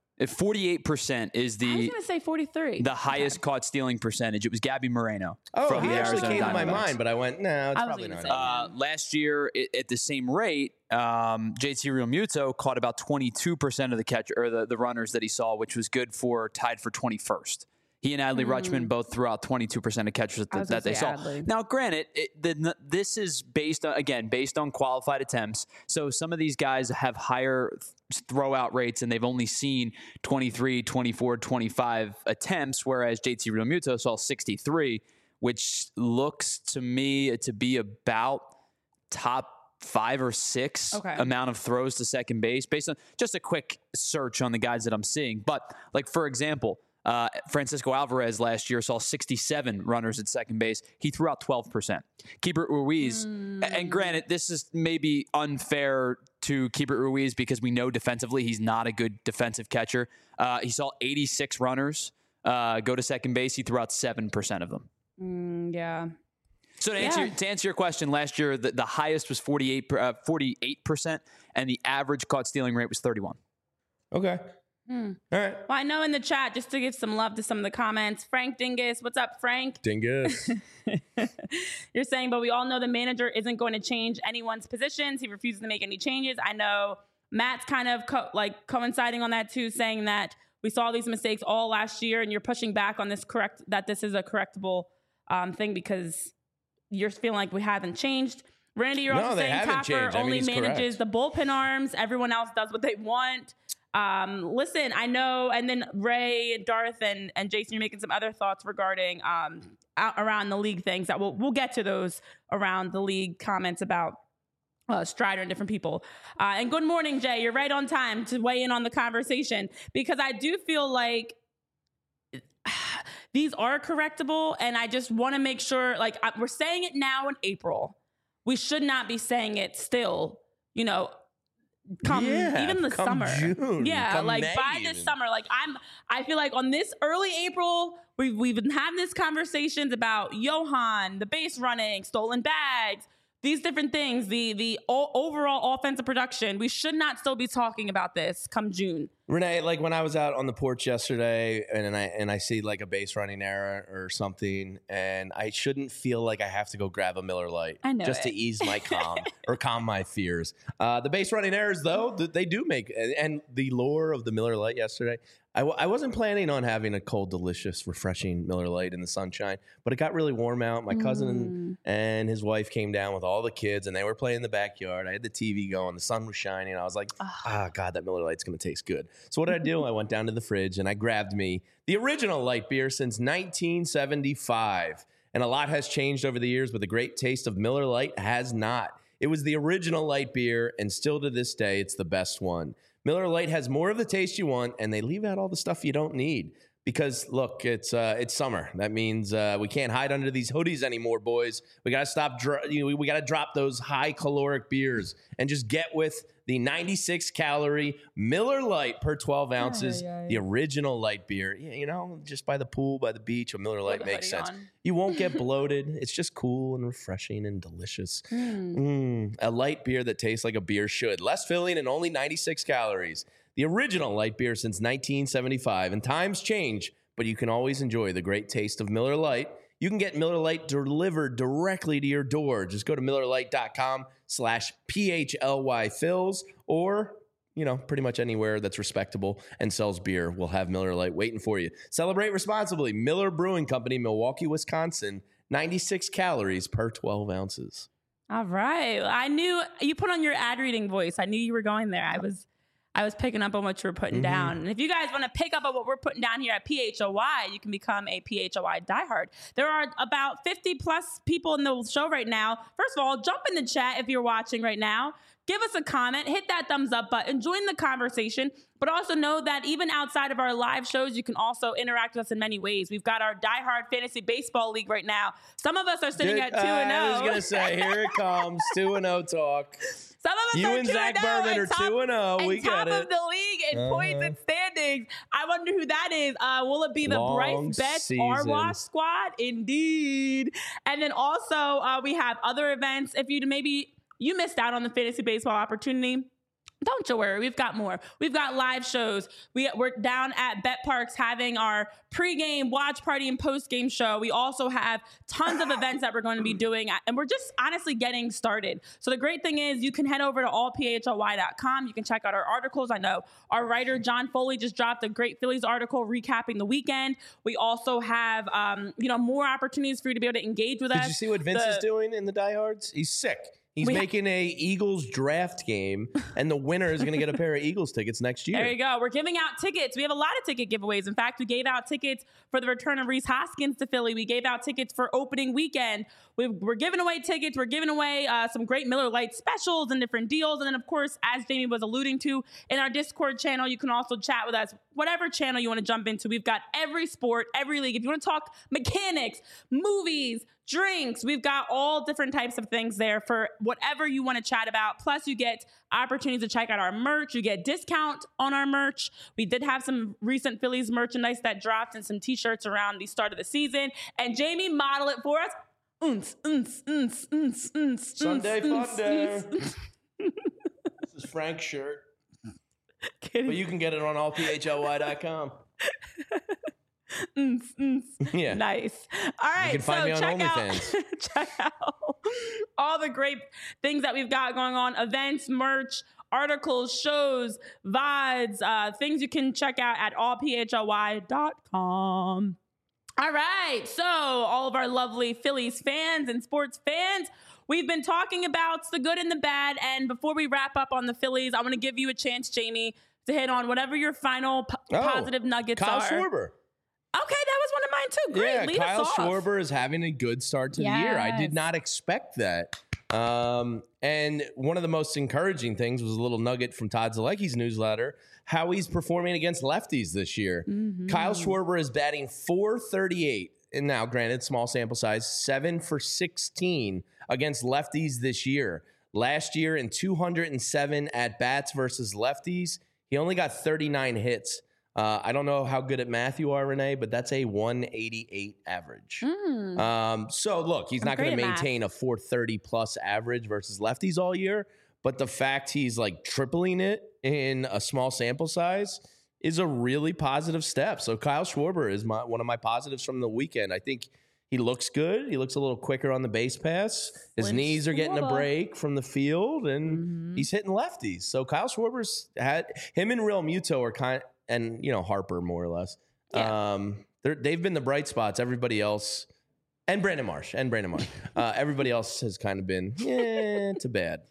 48% is the. I was going to say 43. The highest caught stealing percentage. It was Gabby Moreno. Oh, he actually came to my mind, but I went, no, it's probably not. Last year, at the same rate, JT Realmuto caught about 22% of the catch or the runners that he saw, which was good for tied for 21st. He and Adley Rutschman both threw out 22% of catchers that they saw. Adley. Now, granted, this is based on qualified attempts. So some of these guys have higher throwout rates, and they've only seen 23, 24, 25 attempts, whereas JT Realmuto saw 63, which looks to me to be about top 5 or 6 amount of throws to second base based on just a quick search on the guys that I'm seeing. But, like, for example, Francisco Alvarez last year saw 67 runners at second base. He threw out 12%. Keibert Ruiz, and granted, this is maybe unfair to Keibert Ruiz because we know defensively he's not a good defensive catcher. He saw 86 runners go to second base. He threw out 7% of them. Yeah. So to answer your question, last year the highest was 48%, and the average caught stealing rate was 31. Okay. All right. Well, I know in the chat, just to give some love to some of the comments, Frank Dingus. What's up, Frank? Dingus. You're saying, but we all know the manager isn't going to change anyone's positions. He refuses to make any changes. I know Matt's kind of coinciding on that too, saying that we saw these mistakes all last year, and you're pushing back on this that this is a correctable thing because you're feeling like we haven't changed. Randy, you're also saying Topper only manages the bullpen arms. Everyone else does what they want. Listen, I know, and then Ray, Darth, and Jason, you're making some other thoughts regarding around the league things that we'll get to those around the league comments about Strider and different people. And good morning, Jay. You're right on time to weigh in on the conversation because I do feel like these are correctable, and I just want to make sure, like, we're saying it now in April. We should not be saying it still, even the summer. June, like May by this summer, like I feel like on this early April, we've been having these conversations about Johan, the base running, stolen bags, these different things, the overall offensive production. We should not still be talking about this come June. Renee, like when I was out on the porch yesterday and I see like a base running error or something, and I shouldn't feel like I have to go grab a Miller Lite just to ease my calm or calm my fears. The base running errors, though, they do make, and the lure of the Miller Lite yesterday, I wasn't planning on having a cold, delicious, refreshing Miller Lite in the sunshine, but it got really warm out. My cousin and his wife came down with all the kids, and they were playing in the backyard. I had the TV going. The sun was shining. I was like, God, that Miller Lite's going to taste good. So what did I do? I went down to the fridge and I grabbed me the original light beer since 1975. And a lot has changed over the years, but the great taste of Miller Lite has not. It was the original light beer, and still to this day, it's the best one. Miller Lite has more of the taste you want, and they leave out all the stuff you don't need. Because look, it's summer. That means we can't hide under these hoodies anymore, boys. We gotta stop. We gotta drop those high caloric beers and just get with the 96 calorie Miller Lite per 12 ounces, the original light beer. You know, just by the pool, by the beach, a Miller Lite makes sense. You won't get bloated. It's just cool and refreshing and delicious. A light beer that tastes like a beer should. Less filling and only 96 calories. The original light beer since 1975. And times change, but you can always enjoy the great taste of Miller Lite. You can get Miller Lite delivered directly to your door. Just go to MillerLite.com/PHLYFills, or, you know, pretty much anywhere that's respectable and sells beer will have Miller Lite waiting for you. Celebrate responsibly. Miller Brewing Company, Milwaukee, Wisconsin. 96 calories per 12 ounces. All right. I knew you put on your ad reading voice. I knew you were going there. I was picking up on what you were putting down. And if you guys want to pick up on what we're putting down here at PHOY, you can become a PHOY diehard. There are about 50 plus people in the show right now. First of all, jump in the chat if you're watching right now. Give us a comment, hit that thumbs up button, join the conversation, but also know that even outside of our live shows, you can also interact with us in many ways. We've got our diehard fantasy baseball league right now. Some of us are sitting at 2-0. I was going to say, here it comes, 2-0 talk. Some of us you are and Zach Berman are 2-0. We got it. Top of the league in points and standings. I wonder who that is. Will it be the Bryce Betts Arwash squad? Indeed. And then also we have other events. If you missed out on the fantasy baseball opportunity, don't you worry. We've got more. We've got live shows. We're down at Bet Parks having our pregame watch party and postgame show. We also have tons of events that we're going to be doing, and we're just honestly getting started. So the great thing is you can head over to allphly.com. You can check out our articles. I know our writer, John Foley, just dropped a great Phillies article recapping the weekend. We also have, more opportunities for you to be able to engage with us. Did you see what Vince is doing in the diehards? He's sick. He's making a Eagles draft game, and the winner is going to get a pair of Eagles tickets next year. There you go. We're giving out tickets. We have a lot of ticket giveaways. In fact, we gave out tickets for the return of Rhys Hoskins to Philly. We gave out tickets for opening weekend. We're giving away tickets. We're giving away some great Miller Lite specials and different deals. And then, of course, as Jamie was alluding to, in our Discord channel, you can also chat with us. Whatever channel you want to jump into, we've got every sport, every league. If you want to talk mechanics, movies, drinks, we've got all different types of things there for whatever you want to chat about. Plus, you get opportunities to check out our merch. You get discount on our merch. We did have some recent Phillies merchandise that dropped and some t-shirts around the start of the season. And Jamie modeled it for us. Sunday fun day. This is Frank's shirt. Kidding. But you can get it on allphly.com. Yeah. Nice. All right. You can find me on OnlyFans. Check out all the great things that we've got going on. Events, merch, articles, shows, VODs, things you can check out at allphly.com. All right. So all of our lovely Phillies fans and sports fans, we've been talking about the good and the bad. And before we wrap up on the Phillies, I want to give you a chance, Jamie, to hit on whatever your final positive nuggets Kyle are. Schwarber. Okay, that was one of mine too. Great. Yeah, Lead Kyle us off. Schwarber is having a good start to the year. I did not expect that. And one of the most encouraging things was a little nugget from Todd Zalecki's newsletter, how he's performing against lefties this year. Kyle Schwarber is batting .438. And now, granted, small sample size, 7 for 16 against lefties this year. Last year, in 207 at-bats versus lefties, he only got 39 hits. I don't know how good at math you are, Renee, but that's a 188 average. So, look, he's not going to maintain a 430-plus average versus lefties all year, but the fact he's, like, tripling it in a small sample size is a really positive step. So, Kyle Schwarber is one of my positives from the weekend. I think he looks good. He looks a little quicker on the base pass. His knees are getting a break from the field, and he's hitting lefties. So, Kyle Schwarber's him and Real Muto are and, Harper, more or less. Yeah. They've been the bright spots. Everybody else, and Brandon Marsh. Everybody else has kind of been, to bad.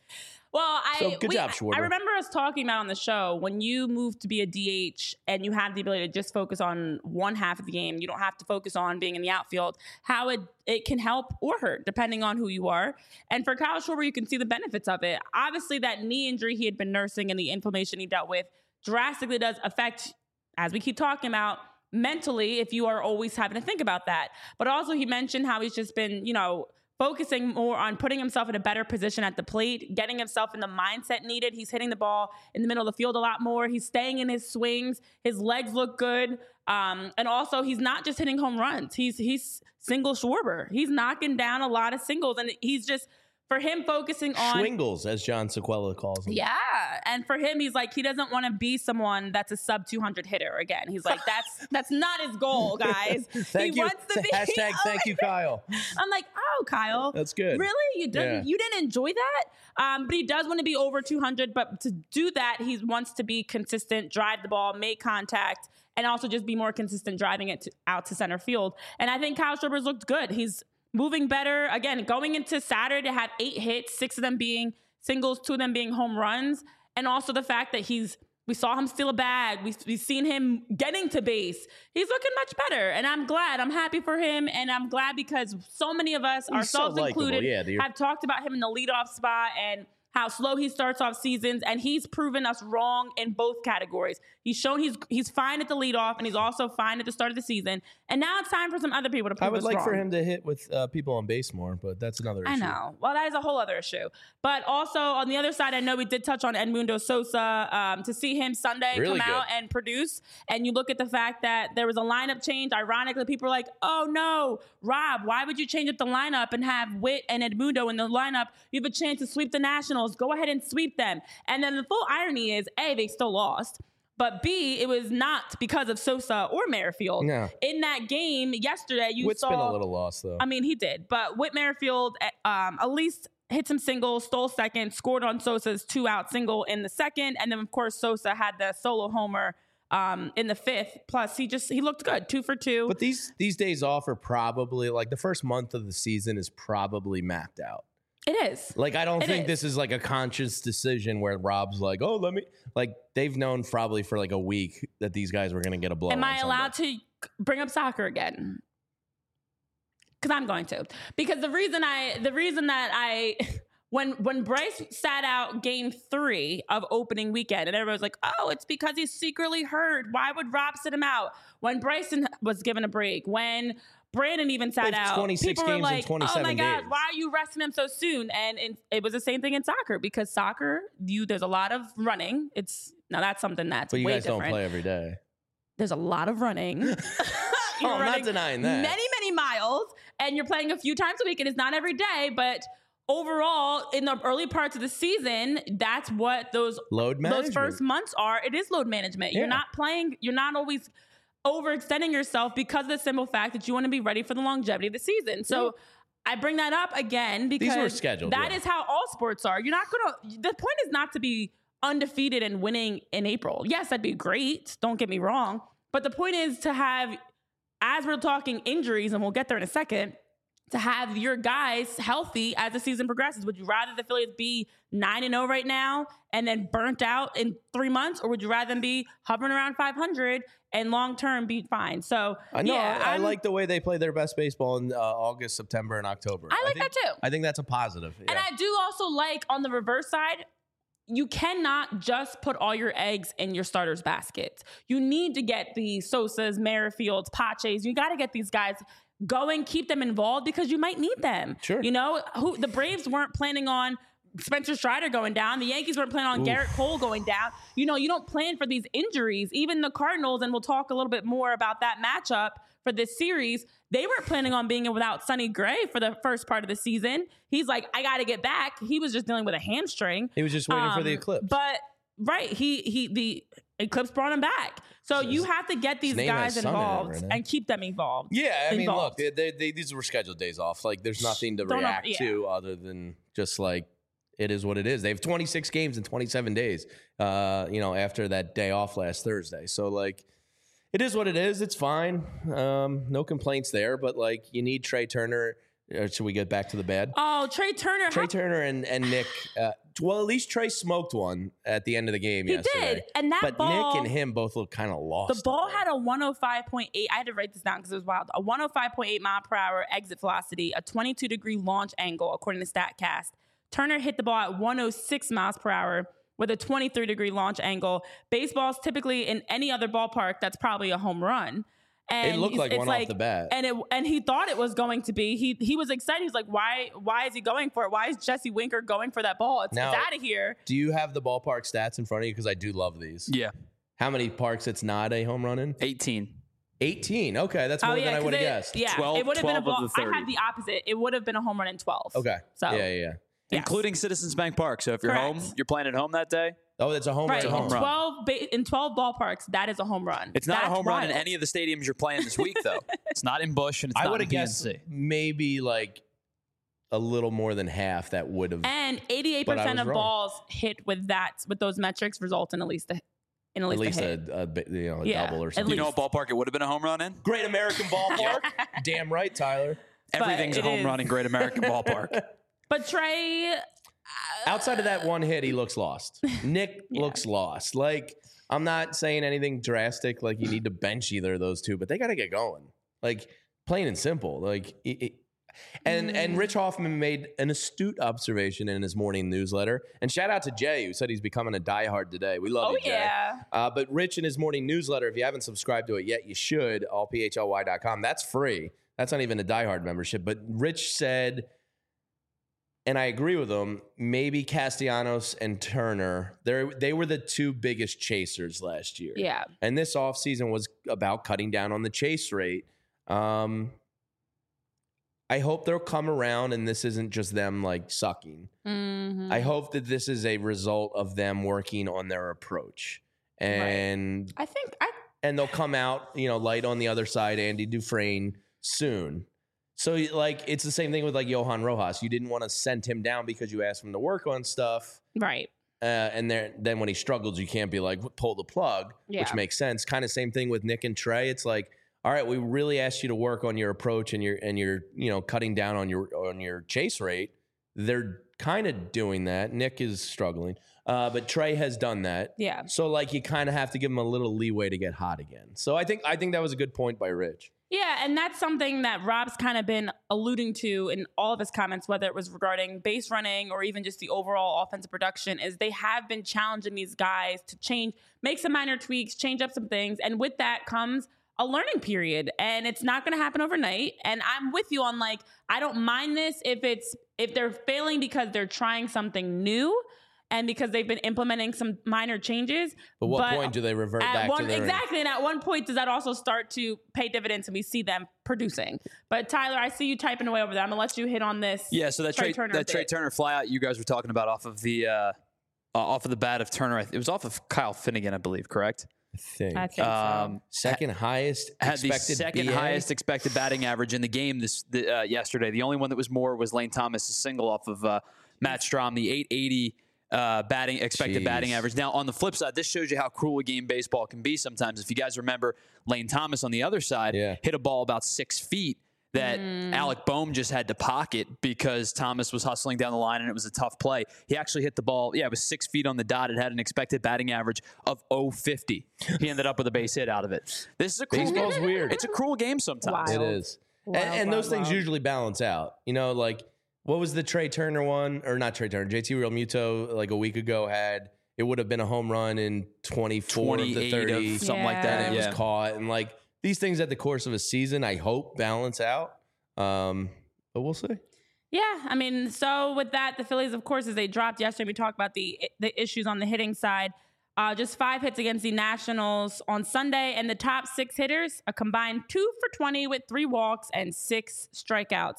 Well, good job, Schwarber. I remember us talking about on the show, when you move to be a DH and you have the ability to just focus on one half of the game, you don't have to focus on being in the outfield, how it can help or hurt depending on who you are. And for Kyle Schwarber, you can see the benefits of it. Obviously, that knee injury he had been nursing and the inflammation he dealt with drastically does affect, as we keep talking about, mentally, if you are always having to think about that. But also he mentioned how he's just been, focusing more on putting himself in a better position at the plate, getting himself in the mindset needed. He's hitting the ball in the middle of the field a lot more. He's staying in his swings. His legs look good. And also he's not just hitting home runs. He's single Schwarber. He's knocking down a lot of singles, and he's just, for him, focusing on Schwingles, as John Sequela calls him. Yeah. And for him, he's like, he doesn't want to be someone that's a sub 200 hitter again. He's like, that's not his goal, guys. Thank you. Wants to be Hashtag thank you, Kyle. I'm like, oh, Kyle. That's good. Really? You didn't enjoy that? But he does want to be over 200. But to do that, he wants to be consistent, drive the ball, make contact, and also just be more consistent driving it out to center field. And I think Kyle Schwarber's looked good. He's moving better. Again, going into Saturday to have 8 hits, 6 of them being singles, 2 of them being home runs. And also the fact that we saw him steal a bag. We've seen him getting to base. He's looking much better. And I'm glad. I'm happy for him. And I'm glad because so many of us, ourselves included, have talked about him in the leadoff spot and how slow he starts off seasons, and he's proven us wrong in both categories. He's shown he's fine at the leadoff, and he's also fine at the start of the season. And now it's time for some other people to prove us wrong. I would like for him to hit with people on base more, but that's another issue. I know. Well, that is a whole other issue. But also on the other side, I know we did touch on Edmundo Sosa. To see him Sunday come out and produce, and you look at the fact that there was a lineup change. Ironically, people are like, "Oh no, Rob, why would you change up the lineup and have Witt and Edmundo in the lineup? You have a chance to sweep the Nationals. Go ahead and sweep them." And then the full irony is, A, they still lost. But B, it was not because of Sosa or Merrifield. No. In that game yesterday, Witt's been a little lost, though. I mean, he did. But Whit Merrifield at least hit some singles, stole second, scored on Sosa's 2-out single in the second. And then, of course, Sosa had the solo homer in the 5th. Plus, he looked good, 2 for 2. But these days off are probably, like, the first month of the season is probably mapped out. It is. Like, I don't think this is like a conscious decision where Rob's like, oh, they've known probably for like a week that these guys were going to get a blow. Am I allowed to bring up soccer again? Because I'm going to. Because the reason that when Bryce sat out game 3 of opening weekend, and everybody was like, oh, it's because he's secretly hurt. Why would Rob sit him out? When Bryson was given a break, when Brandon even sat out, 26 people were games like, in 27 oh my God, days. why are you resting him so soon? And it was the same thing in soccer, because soccer, there's a lot of running. Now that's something that's way different. But you guys don't play every day. There's a lot of running. I'm not denying that. Many, many miles, and you're playing a few times a week, and it's not every day, but overall, in the early parts of the season, that's what those first months are. It is load management. Yeah. You're not playing. You're not always overextending yourself because of the simple fact that you want to be ready for the longevity of the season. So I bring that up again because these were scheduled. That is how all sports are. You're not going to. The point is not to be undefeated and winning in April. Yes, that'd be great. Don't get me wrong. But the point is to have, as we're talking injuries, and we'll get there in a second, to have your guys healthy as the season progresses. Would you rather the Phillies be 9-0 right now and then burnt out in 3 months? Or would you rather them be hovering around 500 and long-term be fine? So, I like the way they play their best baseball in August, September, and October. I like that too. I think that's a positive. Yeah. And I do also like, on the reverse side, you cannot just put all your eggs in your starters' baskets. You need to get the Sosas, Merrifields, Paches. You got to get these guys going, keep them involved, because you might need them. Sure. The Braves weren't planning on Spencer Strider going down. The Yankees weren't planning on Garrett Cole going down. You don't plan for these injuries. Even the Cardinals, and we'll talk a little bit more about that matchup for this series, they weren't planning on being without Sonny Gray for the first part of the season. He's like, I got to get back. He was just dealing with a hamstring. He was just waiting for the eclipse. But the eclipse brought him back. So you have to get these guys involved and keep them involved. Yeah, I mean, look, these were scheduled days off. Like, there's nothing to react to other than just like, it is what it is. They have 26 games in 27 days, after that day off last Thursday. So, like, it is what it is. It's fine. No complaints there. But, like, you need Trey Turner. Should we get back to the bad? Oh, Trey Turner. Trey Turner and Nick. Well, at least Trey smoked one at the end of the game He yesterday. did. And that but ball, Nick and him both look kind of lost. the ball had a 105.8. I had to write this down because it was wild. A 105.8 mile per hour exit velocity, a 22-degree launch angle, according to StatCast. Turner hit the ball at 106 miles per hour with a 23-degree launch angle. Baseball's typically in any other ballpark, that's probably a home run. And It looked like one off the bat. And he thought it was going to be. He was excited. He's like, why is he going for it? Why is Jesse Winker going for that ball? It's out of here. Do you have the ballpark stats in front of you? Because I do love these. Yeah. How many parks it's not a home run in? 18. 18. Okay, that's more than I would have guessed. Yeah, 12 it would have been a 12 ball. of the I 30. had the opposite. It would have been a home run in 12. Okay. So Yeah. yes. Including Citizens Bank Park. So if you're Correct. home, you're playing at home that day. Oh, it's a home Right. run. home run. In 12 ballparks, that is a home run. It's not That's a home run in wild. any of the stadiums you're playing this week, though. It's not in Busch and it's I not would in have guessed PNC. maybe like a little more than half that would have. And But I 88% was of wrong. balls hit with those metrics result in at least a At least hit. a Yeah, double or at something. You know what ballpark it would have been a home run in? Great American Ballpark. Damn right, Tyler. Everything's a it home is. run in Great American Ballpark. But Trey, Outside of that one hit, he looks lost. Nick looks lost. Like, I'm not saying anything drastic, like you need to bench either of those two, but they got to get going. Like, plain and simple. Like, and Rich Hoffman made an astute observation in his morning newsletter. And shout out to Jay, who said he's becoming a diehard today. We love you, Jay. yeah. But Rich in his morning newsletter, if you haven't subscribed to it yet, you should. allphly.com. That's free. That's not even a diehard membership. But Rich said, and I agree with him, maybe Castellanos and Turner, they were the two biggest chasers last year. Yeah. And this offseason was about cutting down on the chase rate. I hope they'll come around and this isn't just them like sucking. Mm-hmm. I hope that this is a result of them working on their approach. And and they'll come out, light on the other side, Andy Dufresne, soon. So, like, it's the same thing with, like, Johan Rojas. You didn't want to send him down because you asked him to work on stuff. Right. And then when he struggles, you can't be like, pull the plug, which makes sense. Kind of same thing with Nick and Trey. It's like, all right, we really asked you to work on your approach and your cutting down on your chase rate. They're kind of doing that. Nick is struggling, but Trey has done that. Yeah. So like you kind of have to give him a little leeway to get hot again. So I think that was a good point by Rich. Yeah, and that's something that Rob's kind of been alluding to in all of his comments, whether it was regarding base running or even just the overall offensive production, is they have been challenging these guys to change, make some minor tweaks, change up some things. And with that comes a learning period, and it's not going to happen overnight. And I'm with you on, like, I don't mind this if they're failing because they're trying something new and because they've been implementing some minor changes. But what point do they revert back to their... Exactly, and at one point does that also start to pay dividends and we see them producing. But Tyler, I see you typing away over there. I'm going to let you hit on this. Yeah, so that Trey Turner flyout you guys were talking about off of the bat of Turner, it was off of Kyle Finnegan, I believe, correct? I think so. Second highest had the expected second BA? highest expected batting average in the game yesterday. The only one that was more was Lane Thomas' single off of Matt Strahm, the 880 expected batting average. Now, on the flip side, this shows you how cruel a game baseball can be sometimes. If you guys remember, Lane Thomas on the other side hit a ball about 6 feet that Alec Boehm just had to pocket because Thomas was hustling down the line and it was a tough play. He actually hit the ball. Yeah, it was 6 feet on the dot. It had an expected batting average of 0.50. He ended up with a base hit out of it. This is a cruel Baseball's game. weird. It's a cruel game sometimes. It is. And those things usually balance out. Like what was the Trey Turner one? Or not Trey Turner, JT Realmuto like a week ago had, it would have been a home run in 24 of the 30. Something like that. And it was caught. And like these things at the course of a season, I hope balance out. But we'll see. Yeah, I mean, so with that, the Phillies, of course, as they dropped yesterday, we talked about the issues on the hitting side. Just 5 hits against the Nationals on Sunday, and the top 6 hitters, a combined 2 for 20 with 3 walks and 6 strikeouts.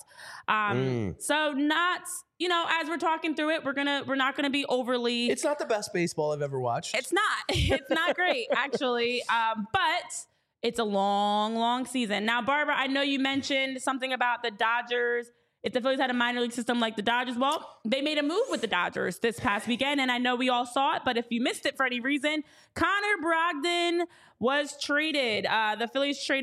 So not, as we're talking through it, we're not gonna be overly. It's not the best baseball I've ever watched. It's not. It's not great, actually. But it's a long, long season. Now, Barbara, I know you mentioned something about the Dodgers. If the Phillies had a minor league system like the Dodgers, well, they made a move with the Dodgers this past weekend, and I know we all saw it, but if you missed it for any reason, Connor Brogdon was traded. The Phillies traded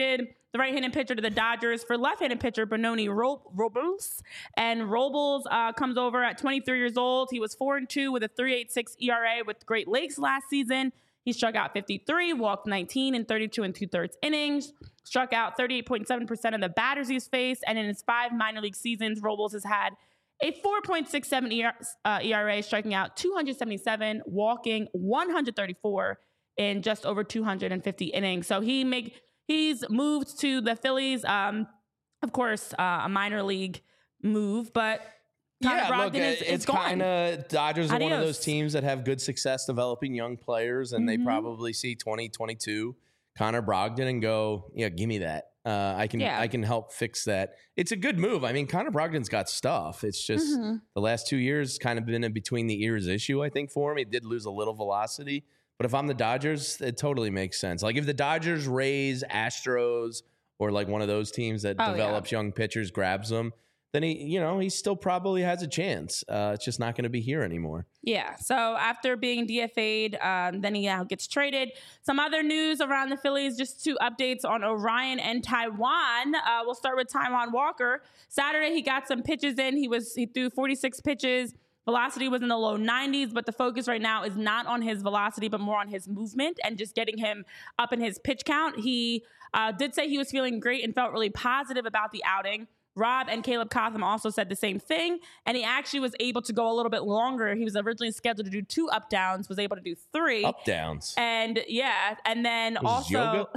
the right-handed pitcher to the Dodgers for left-handed pitcher Benoni Robles. And Robles comes over at 23 years old. He was 4-2 with a 3.86 ERA with Great Lakes last season. He struck out 53, walked 19 in 32 2/3 innings, struck out 38.7% of the batters he's faced, and in his 5 minor league seasons, Robles has had a 4.67 ERA, striking out 277, walking 134 in just over 250 innings. So he's moved to the Phillies. Of course, a minor league move, but Connor Brogdon is gone. Kind of Dodgers are one of Adios. those teams that have good success developing young players, and they probably see 2022 Connor Brogdon and go, yeah, give me that. I can help fix that. It's a good move. I mean, Connor Brogdon's got stuff. It's just the last 2 years kind of been a between the ears issue, I think, for him. He did lose a little velocity. But if I'm the Dodgers, it totally makes sense. Like if the Dodgers, Rays, Astros, or like one of those teams that develops young pitchers, grabs them, then he still probably has a chance. It's just not going to be here anymore. Yeah. So after being DFA'd, then he gets traded. Some other news around the Phillies, just 2 updates on Orion and Taijuan. We'll start with Taijuan Walker. Saturday, he got some pitches in. He threw 46 pitches. Velocity was in the low 90s, but the focus right now is not on his velocity, but more on his movement and just getting him up in his pitch count. He did say he was feeling great and felt really positive about the outing. Rob and Caleb Cotham also said the same thing, and he actually was able to go a little bit longer. He was originally scheduled to do 2 up downs, was able to do 3. Up downs. And and then also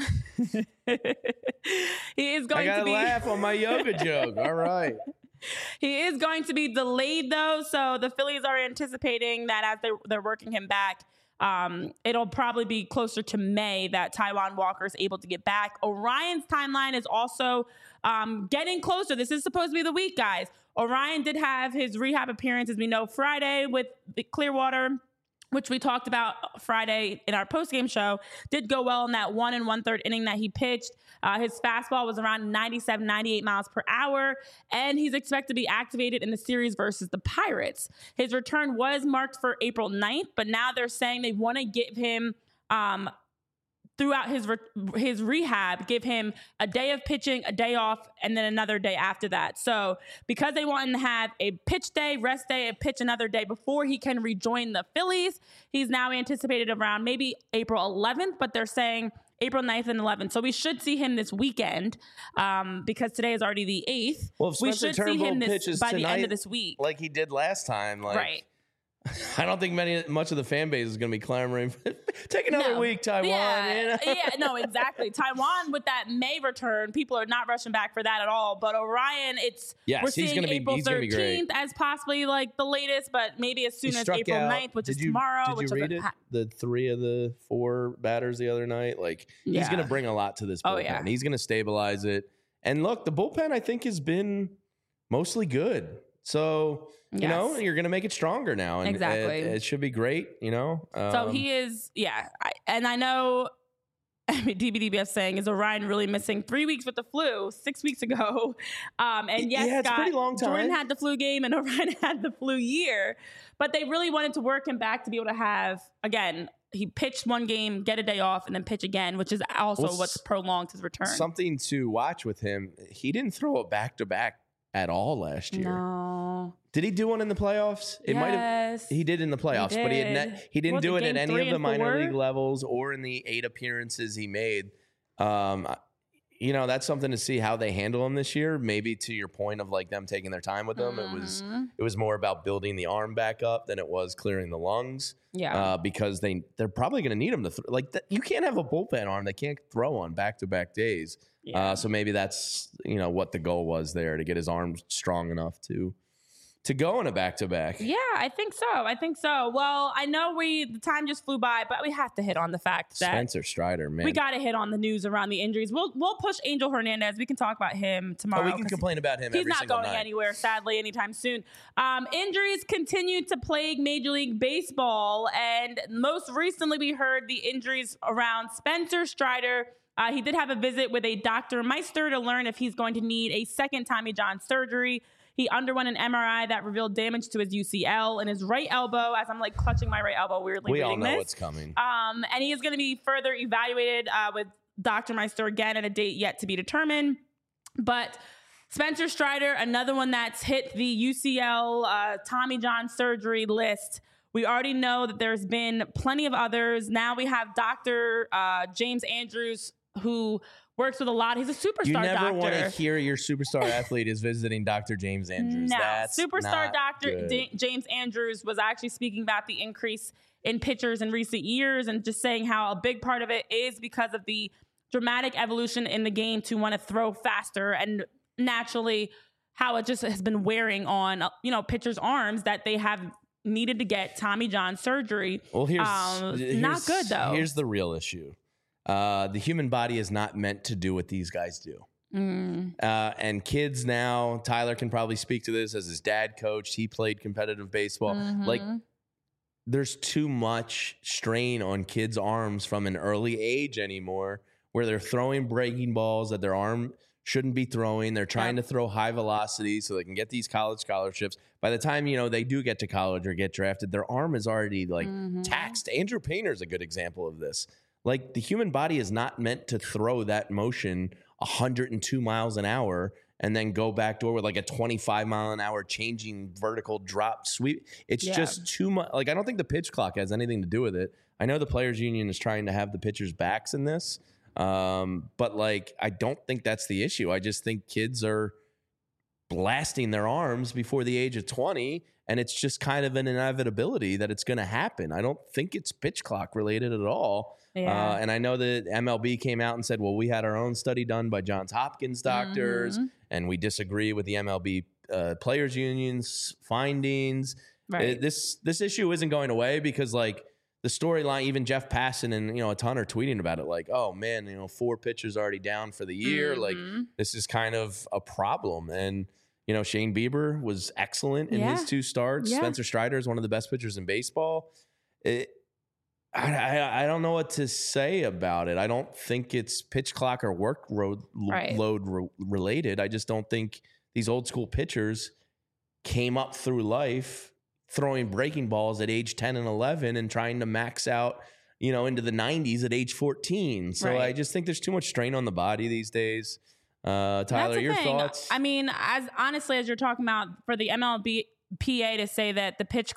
he is going to be laugh on my yoga joke. All right. He is going to be delayed though, so the Phillies are anticipating that as they're working him back, it'll probably be closer to May that Taijuan Walker is able to get back. Orion's timeline is also getting closer. This is supposed to be the week, guys. Orion did have his rehab appearance, as we know, Friday with the Clearwater, which we talked about Friday in our postgame show. Did go well in that 1 1/3 inning that he pitched. His fastball was around 97, 98 miles per hour, and he's expected to be activated in the series versus the Pirates. His return was marked for April 9th, but now they're saying they want to give him, throughout his rehab, give him a day of pitching, a day off, and then another day after that. So because they want him to have a pitch day, rest day, and pitch another day before he can rejoin the Phillies, he's now anticipated around maybe April 11th, but they're saying April 9th and 11th. So we should see him this weekend because today is already the 8th. Well, if we Spencer should see Turnbull him pitches by the tonight, end of this week. like he did last time. Right. I don't think much of the fan base is going to be clamoring. Take another week, Taijuan. Yeah, no, exactly. Taijuan with that May return, people are not rushing back for that at all. But Orion, we're seeing April 13th as possibly like the latest, but maybe as soon as April 9th, which is tomorrow. Did you read it? The 3 of the 4 batters the other night. Like he's going to bring a lot to this bullpen. Oh, yeah. He's going to stabilize it. And look, the bullpen I think has been mostly good. So, you know, you're going to make it stronger now. And exactly. It should be great, you know. So he is, I know DBDBS saying, is Orion really missing 3 weeks with the flu 6 weeks ago? And yes, it's a pretty long time. Jordan had the flu game and Orion had the flu year. But they really wanted to work him back to be able to have, again, he pitched 1 game, get a day off, and then pitch again, which is also what's prolonged his return. Something to watch with him. He didn't throw it back-to-back at all last year. No. Did he do one in the playoffs? Might have. He did in the playoffs, but he didn't do it at any of the minor league levels or in the 8 appearances he made. You know, that's something to see how they handle him this year. Maybe to your point of like them taking their time with him, it was more about building the arm back up than it was clearing the lungs. Yeah. Because they're probably going to need him to you can't have a bullpen arm that can't throw on back-to-back days. Yeah. So maybe that's, what the goal was there, to get his arm strong enough to go in a back-to-back. Yeah, I think so. Well, I know the time just flew by, but we have to hit on the fact that Spencer Strider, man. We got to hit on the news around the injuries. We'll push Angel Hernandez. We can talk about him tomorrow. We can complain about him every single night. He's not going anywhere, sadly, anytime soon. Injuries continue to plague Major League Baseball, and most recently we heard the injuries around Spencer Strider. He did have a visit with a Dr. Meister to learn if he's going to need a second Tommy John surgery. He underwent an MRI that revealed damage to his UCL in his right elbow, as I'm like clutching my right elbow weirdly. We all know what's coming. And he is going to be further evaluated with Dr. Meister again at a date yet to be determined. But Spencer Strider, another one that's hit the UCL Tommy John surgery list. We already know that there's been plenty of others. Now we have Dr. James Andrews, who works with a lot. He's a superstar doctor. You never want to hear your superstar athlete is visiting Dr. James Andrews. No, That's superstar not Dr. good. James Andrews was actually speaking about the increase in pitchers in recent years and just saying how a big part of it is because of the dramatic evolution in the game to want to throw faster, and naturally how it just has been wearing on, pitchers' arms that they have needed to get Tommy John surgery. Well, here's not good though. Here's the real issue. The human body is not meant to do what these guys do. And kids now, Tyler can probably speak to this as his dad coached. He played competitive baseball. Like, there's too much strain on kids' arms from an early age anymore, where they're throwing breaking balls that their arm shouldn't be throwing. They're trying to throw high velocity so they can get these college scholarships. By the time, they do get to college or get drafted, their arm is already taxed. Andrew Painter is a good example of this. Like, the human body is not meant to throw that motion 102 miles an hour and then go backdoor with like a 25 mile an hour changing vertical drop sweep. It's just too much. Like, I don't think the pitch clock has anything to do with it. I know the Players Union is trying to have the pitchers' backs in this. But like, I don't think that's the issue. I just think kids are blasting their arms before the age of 20, and it's just kind of an inevitability that it's going to happen. I don't think it's pitch clock related at all. Yeah. And I know that MLB came out and said, well, we had our own study done by Johns Hopkins doctors, and we disagree with the MLB Players Union's findings. Right. This issue isn't going away because, like, the storyline, even Jeff Passan and, a ton are tweeting about it. Like, oh man, 4 pitchers already down for the year. Like, this is kind of a problem. And, Shane Bieber was excellent in his 2 starts. Spencer Strider is one of the best pitchers in baseball. I don't know what to say about it. I don't think it's pitch clock or load related. I just don't think these old school pitchers came up through life throwing breaking balls at age 10 and 11 and trying to max out, into the 90s at age 14. So I just think there's too much strain on the body these days. Tyler, your thoughts? I mean, as honestly as you're talking about, for the MLBPA to say that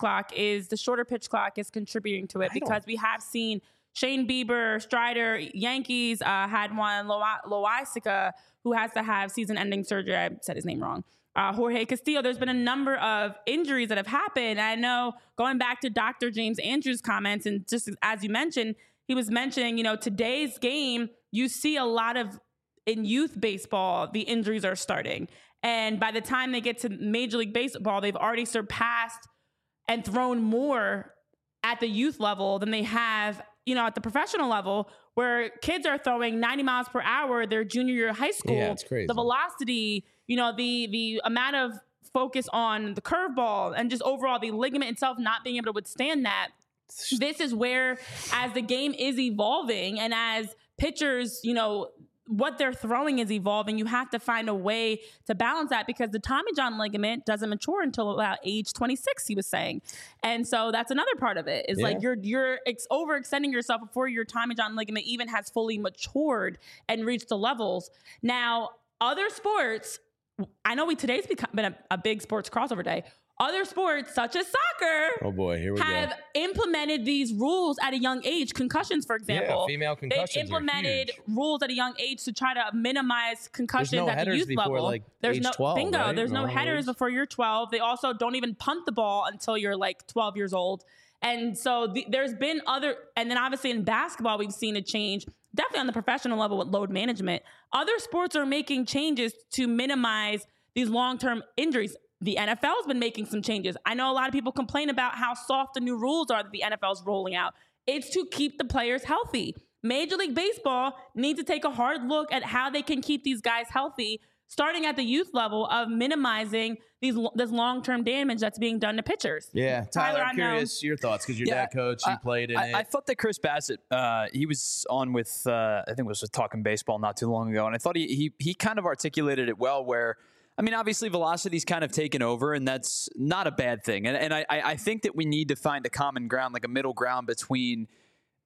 the shorter pitch clock is contributing to it, because we have seen Shane Bieber, Strider, Yankees had one, Loisaca, who has to have season-ending surgery. I said his name wrong. Jorge Castillo. There's been a number of injuries that have happened. I know, going back to Dr. James Andrews' comments, and just as you mentioned, he was mentioning, today's game, you see a lot of, in youth baseball, the injuries are starting. And by the time they get to Major League Baseball, they've already surpassed and thrown more at the youth level than they have, at the professional level, where kids are throwing 90 miles per hour their junior year of high school. Yeah, it's crazy. The velocity, the amount of focus on the curveball and just overall the ligament itself not being able to withstand that. This is where, as the game is evolving and as pitchers, what they're throwing is evolving, you have to find a way to balance that, because the Tommy John ligament doesn't mature until about age 26, he was saying. And so that's another part of it, is like you're overextending yourself before your Tommy John ligament even has fully matured and reached the levels. Now, other sports, I know today's been a big sports crossover day. Other sports, such as soccer, oh boy, here we have implemented these rules at a young age. Concussions, for example. Yeah, female concussions. They've implemented rules at a young age to try to minimize concussions at the youth before, level. Like, there's age no 12, bingo. Right? There's no headers before you're 12. They also don't even punt the ball until you're like 12 years old. And so there's been and then obviously in basketball, we've seen a change, definitely on the professional level with load management. Other sports are making changes to minimize these long-term injuries. The NFL's been making some changes. I know a lot of people complain about how soft the new rules are that the NFL's rolling out. It's to keep the players healthy. Major League Baseball needs to take a hard look at how they can keep these guys healthy, starting at the youth level, of minimizing this long-term damage that's being done to pitchers. Yeah, Tyler, I'm curious your thoughts, because your dad coach, he played in it. I thought that Chris Bassett, he was on with, I think it was with Talking Baseball not too long ago, and I thought he kind of articulated it well, where, I mean, obviously velocity's kind of taken over, and that's not a bad thing. And I think that we need to find a common ground, like a middle ground between,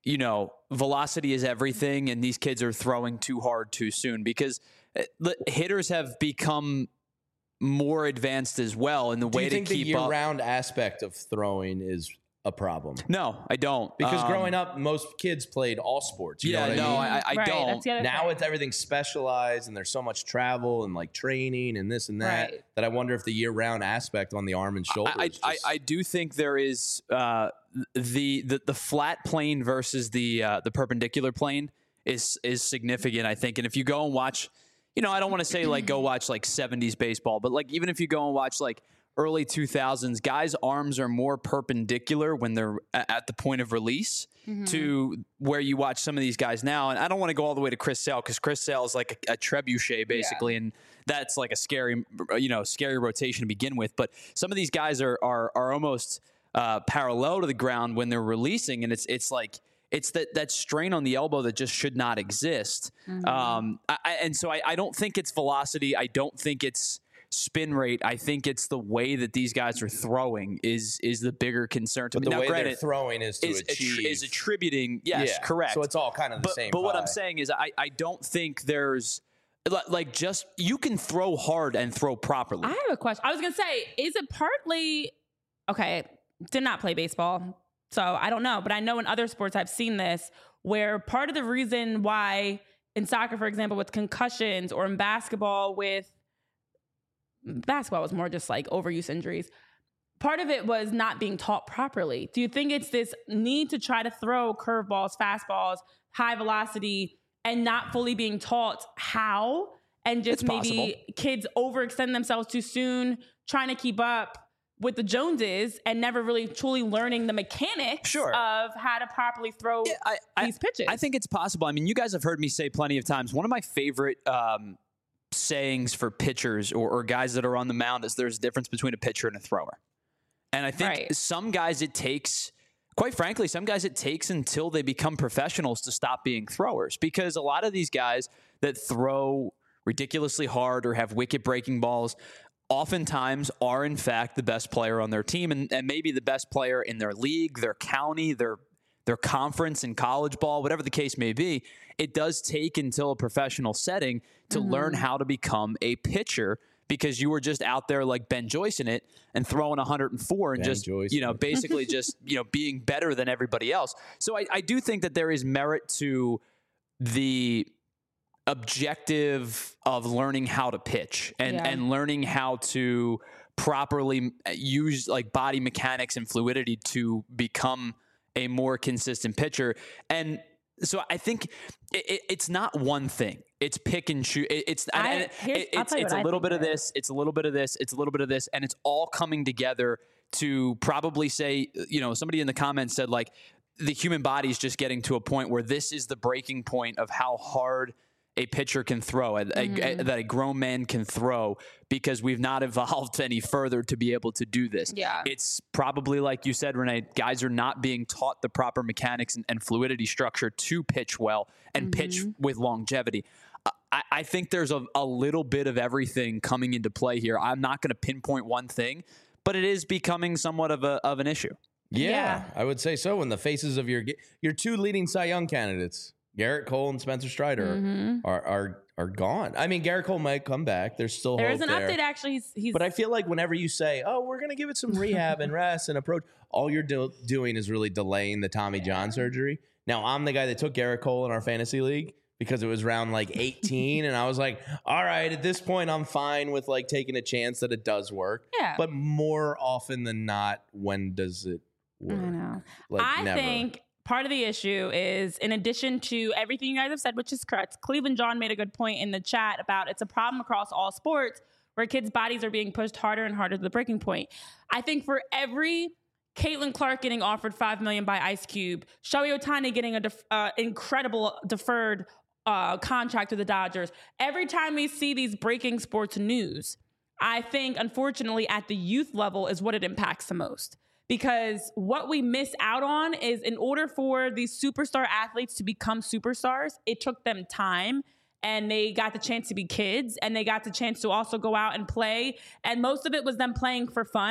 velocity is everything and these kids are throwing too hard too soon, because hitters have become more advanced as well in the way to keep up. Do you think the year-round aspect of throwing is a problem? No, I don't. Because growing up, most kids played all sports. You know what I mean? I Right, don't. that's the other Now thing. it's everything specialized, and there's so much travel and like training and this and that, Right. that I wonder if the year-round aspect on the arm and shoulder. I do think there is the flat plane versus the perpendicular plane is significant, I think. And if you go and watch, I don't want to say like go watch like 70s baseball, but like even if you go and watch like early 2000s, guys' arms are more perpendicular when they're at the point of release to where you watch some of these guys now. And I don't want to go all the way to Chris Sale, because Chris Sale is like a trebuchet basically, and that's like a scary rotation to begin with. But some of these guys are almost parallel to the ground when they're releasing, and it's like it's that strain on the elbow that just should not exist. And so I don't think it's velocity. I don't think it's spin rate. I think it's the way that these guys are throwing is the bigger concern to me. the Now, way granted, they're throwing is to achieve. is attributing. Yes, Yeah. correct. So it's all kind of the same. But what I'm pie. saying is, I don't think there's like just you can throw hard and throw properly. I have a question. I was going to say, is it partly, okay, did not play baseball, so I don't know, but I know in other sports I've seen this, where part of the reason why in soccer, for example, with concussions, or in basketball was more just like overuse injuries. Part of it was not being taught properly. Do you think it's this need to try to throw curveballs, fastballs, high velocity, and not fully being taught how? And just It's maybe possible. kids overextend themselves too soon, trying to keep up with the Joneses and never really truly learning the mechanics Sure. of how to properly throw these pitches. I think it's possible. I mean, you guys have heard me say plenty of times, one of my favorite sayings for pitchers or guys that are on the mound is there's a difference between a pitcher and a thrower. And I think Right. some guys it takes, quite frankly, until they become professionals to stop being throwers, because a lot of these guys that throw ridiculously hard or have wicket breaking balls oftentimes are in fact the best player on their team and maybe the best player in their league, their county, their conference in college ball, whatever the case may be. It does take until a professional setting to learn how to become a pitcher, because you were just out there like Ben Joyce in it and throwing 104 and Ben just, Joyce. basically just, being better than everybody else. So I do think that there is merit to the objective of learning how to pitch and learning how to properly use like body mechanics and fluidity to become a more consistent pitcher. And so I think it's not one thing. It's pick and choose. It's a little bit of this. It's a little bit of this. It's a little bit of this. And it's all coming together to probably say, somebody in the comments said like the human body is just getting to a point where this is the breaking point of how hard a pitcher can throw, that a grown man can throw, because we've not evolved any further to be able to do this. Yeah. It's probably, like you said, Renee, guys are not being taught the proper mechanics and fluidity structure to pitch well and pitch with longevity. I think there's a little bit of everything coming into play here. I'm not going to pinpoint one thing, but it is becoming somewhat of an issue. Yeah, I would say so. In the faces of your two leading Cy Young candidates, Garrett Cole and Spencer Strider, are gone. I mean, Garrett Cole might come back. There's still there hope is an there. update actually. He's But I feel like whenever you say, "Oh, we're going to give it some rehab and rest and approach," all you're doing is really delaying the Tommy John surgery. Now, I'm the guy that took Garrett Cole in our fantasy league because it was round like 18, and I was like, "All right, at this point, I'm fine with like taking a chance that it does work." Yeah. But more often than not, when does it work? I know. Like I never. think part of the issue is, in addition to everything you guys have said, which is correct, Cleveland John made a good point in the chat about it's a problem across all sports where kids' bodies are being pushed harder and harder to the breaking point. I think for every Caitlin Clark getting offered $5 million by Ice Cube, Shohei Ohtani getting an incredible deferred contract to the Dodgers, every time we see these breaking sports news, I think, unfortunately, at the youth level is what it impacts the most. Because what we miss out on is, in order for these superstar athletes to become superstars, it took them time, and they got the chance to be kids, and they got the chance to also go out and play. And most of it was them playing for fun.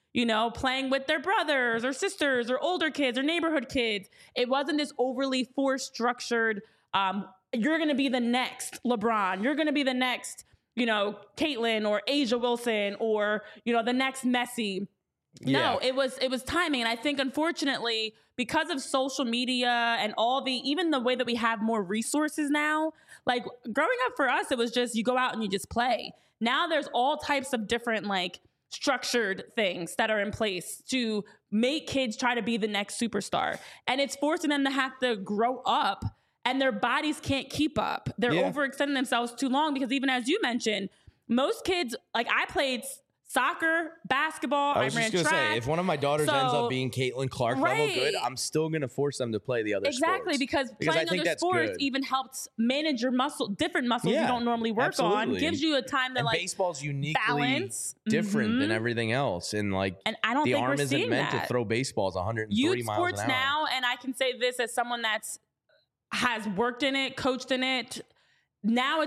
playing with their brothers or sisters or older kids or neighborhood kids. It wasn't this overly force structured, you're going to be the next LeBron. You're going to be the next, Caitlyn or Asia Wilson or, the next Messi. No, it was timing. And I think, unfortunately, because of social media and even the way that we have more resources now, like growing up for us, it was just you go out and you just play. Now there's all types of different structured things that are in place to make kids try to be the next superstar. And it's forcing them to have to grow up and their bodies can't keep up. They're overextending themselves too long because even as you mentioned, most kids, I played soccer, basketball, I ran track. Say, if one of my daughters ends up being Caitlin Clark level good, I'm still going to force them to play the other sports. Because playing other sports even helps manage your different muscles you don't normally work on. Gives you a time to baseball's uniquely balance. different than everything else. And I don't think arm we're isn't seeing meant that. to throw baseballs 130 Youth miles sports an hour. now, and I can say this as someone has worked in it, coached in it. Now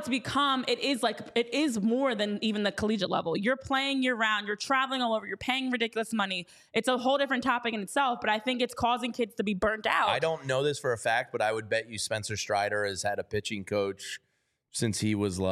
it is more than even the collegiate level. You're playing year round, you're traveling all over, you're paying ridiculous money. It's a whole different topic in itself, but I think it's causing kids to be burnt out. I don't know this for a fact, but I would bet you Spencer Strider has had a pitching coach since he was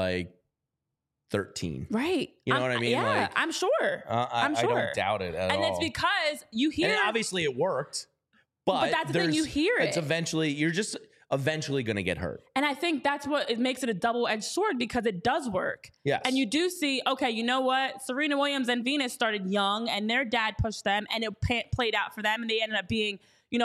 13. Right. You know what I mean? Yeah, I'm sure. I'm sure. I don't doubt it at all. And it's because you hear. And obviously it worked. But that's the thing, you hear it. It's you're just eventually going to get hurt. And I think that's what it makes it a double-edged sword because it does work. Yes. And you do see, okay, you know what? Serena Williams and Venus started young and their dad pushed them and it played out for them and they ended up being,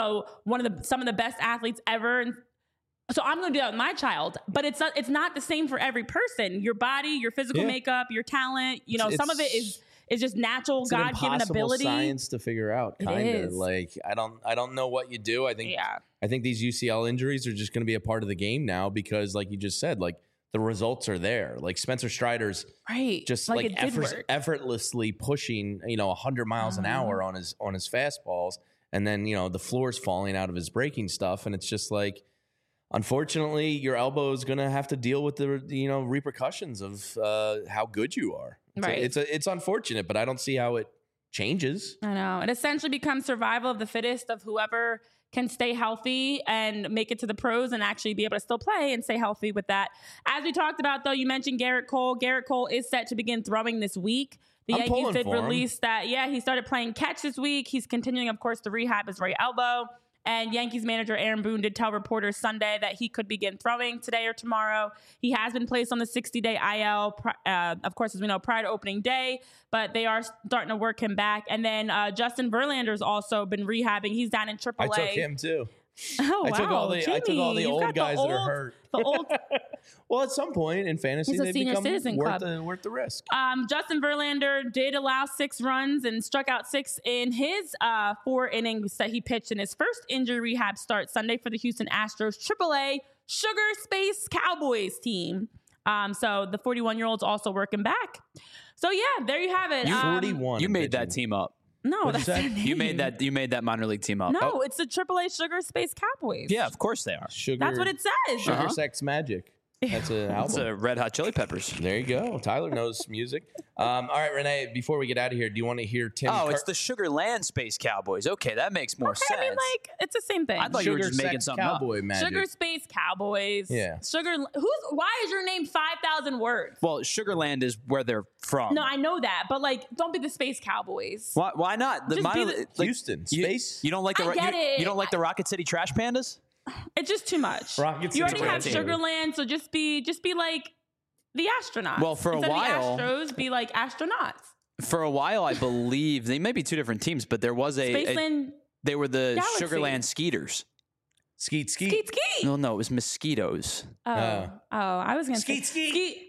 some of the best athletes ever. And so I'm going to do that with my child, but it's not the same for every person. Your body, your physical makeup, your talent, some of it is just natural, God-given ability. Science to figure out, kind of. I don't know what you do. I think these UCL injuries are just going to be a part of the game now because, like you just said, the results are there. Spencer Strider's just effortlessly pushing 100 miles an hour on his fastballs, and then the floor's falling out of his breaking stuff, and it's just unfortunately, your elbow is going to have to deal with the repercussions of how good you are. It's unfortunate, but I don't see how it changes. I know. It essentially becomes survival of the fittest of whoever can stay healthy and make it to the pros and actually be able to still play and stay healthy with that. As we talked about, though, you mentioned Garrett Cole. Garrett Cole is set to begin throwing this week. The Yankees did release that. Yeah, he started playing catch this week. He's continuing, of course, to rehab his right elbow. And Yankees manager Aaron Boone did tell reporters Sunday that he could begin throwing today or tomorrow. He has been placed on the 60-day IL, of course, as we know, prior to opening day, but they are starting to work him back. And then Justin Verlander's also been rehabbing. He's down in AAA. I took him too. Oh, wow. I took all the old guys that are hurt. The old. Well, at some point in fantasy, they become worth the risk. Justin Verlander did allow 6 runs and struck out 6 in his 4 innings that he pitched in his first injury rehab start Sunday for the Houston Astros AAA Sugar Space Cowboys team. So the 41-year-old's also working back. So yeah, there you have it. 41. You made that team up. No, that's their name. You made that minor league team up. No, it's the AAA Sugar Space Cowboys. Yeah, of course they are. That's what it says. Sugar Sex Magic. That's an album. It's a Red Hot Chili Peppers. There you go. Tyler knows music. All right, Renee, before we get out of here, do you want to hear Tim? It's the Sugar Land Space Cowboys. Okay, that makes more sense. I mean, it's the same thing. I thought you were just making something Cowboy up. Magic. Sugar Space Cowboys. Yeah. Why is your name 5,000 words? Well, Sugarland is where they're from. No, I know that, but don't be the Space Cowboys. Why not? Houston Space. You don't like you don't like the Rocket City Trash Pandas? It's just too much. You already have Sugarland, so just be like the astronauts. Well, for Instead a while, the Astros be like astronauts. For a while, I believe they may be 2 different teams, but there was they were the Galaxy. Sugarland Skeeters. Skeet. Skeet. No, it was mosquitoes. I was gonna Skeet. Skeet.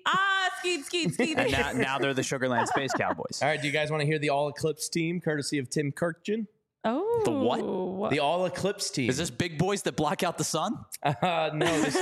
Skeet. And now they're the Sugarland Space Cowboys. All right, do you guys want to hear the All Eclipse team, courtesy of Tim Kirkjian? Oh, the what? The All Eclipse team. Is this big boys that block out the sun? No,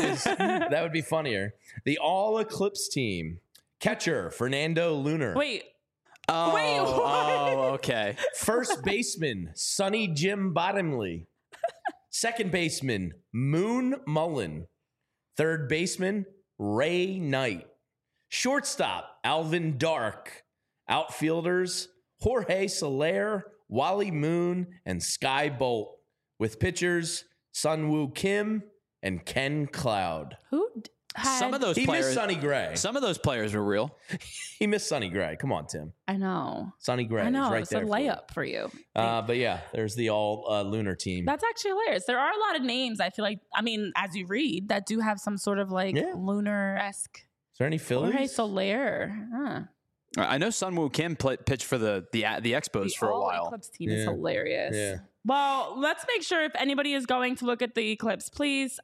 that would be funnier. The All Eclipse team. Catcher, Fernando Lunar. Wait. Oh, Wait, what? Oh, okay. First baseman, Sonny Jim Bottomley. Second baseman, Moon Mullen. Third baseman, Ray Knight. Shortstop, Alvin Dark. Outfielders, Jorge Soler, Wally Moon, and Sky Bolt, with pitchers Sunwoo Kim and Ken Cloud. Who had... Some of those He players, missed Sonny Gray. Some of those players were real. He missed Sonny Gray. Come on, Tim. I know. Sonny Gray. I know. Is right It's a there for you. layup for you. But yeah, there's the all lunar team. That's actually hilarious. There are a lot of names, I feel like, I mean, as you read, that do have some sort of like lunar-esque. Is there any Phillies? Jorge Soler. Huh. I know Sunwoo Kim pitched for the Expos for a while. Eclipse team is hilarious. Yeah. Well, let's make sure if anybody is going to look at the eclipse, please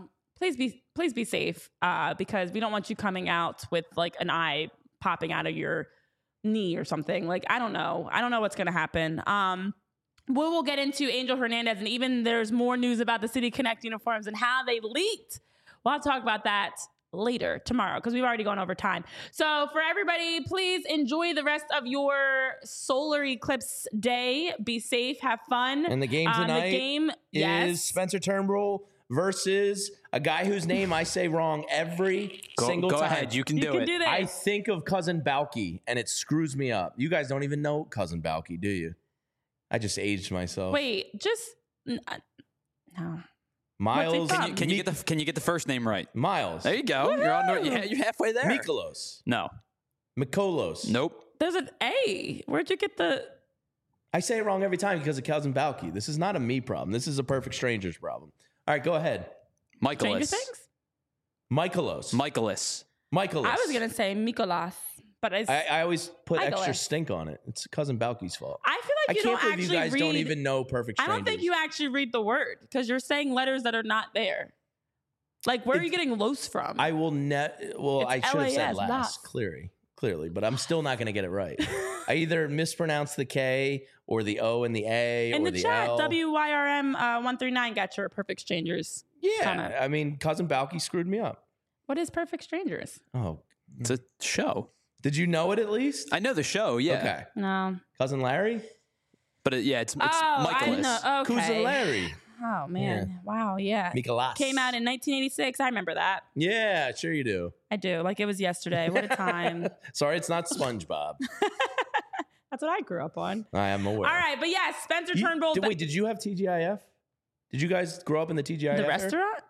be safe because we don't want you coming out with like an eye popping out of your knee or something. Like, I don't know what's going to happen. We will get into Angel Hernandez, and even there's more news about the City Connect uniforms and how they leaked. We'll talk about that later tomorrow because we've already gone over time. So for everybody, please enjoy the rest of your solar eclipse day. Be safe, have fun. And the game tonight the game, is Spencer Turnbull versus a guy whose name I say wrong every single time. Go ahead, you can do it. this. I think of Cousin Balky, and it screws me up. You guys don't even know Cousin Balky, do you? I just aged myself. Wait, just no. Miles. What's it Can you get the first name right? Miles. There you go. You're halfway there. Mikolos. No. Mikolos. Nope. There's an A. Where'd you get the? I say it wrong every time because of Cousin Balky. This is not a me problem. This is a perfect stranger's problem. All right, go ahead. Stranger Michaelis. Things? Michaelos. Michaelis. Michaelos. I was gonna say Mikolas, but I always put extra Michaelis. stink on it. It's Cousin Balky's fault. I feel like you can't don't believe actually you guys read. don't even know perfect I strangers. don't think you actually read the word because you're saying letters that are not there. Like, where are you getting los from? I will Well, I It's should have said LAS, last. Clearly, but I'm still not going to get it right. I either mispronounce the K or the O and the A In or the the chat, L. WYRM 139 got your perfect strangers. Yeah, comment. I mean, Cousin Balky screwed me up. What is perfect strangers? Oh, It's a show. did you know it at least? I know the show, yeah. Okay, No. Cousin Larry, But it's I Michaelis. know. Okay. Cousin Larry, Oh man! Wow. Yeah. Mikolas Came out in 1986. I remember that. Yeah, sure you do. I do. Like it was yesterday. What a time. Sorry, it's not SpongeBob. That's what I grew up on. I am aware. All right, but yes, Spencer Turnbull. Wait, did you have TGIF? Did you guys grow up in the TGIF? The era? restaurant?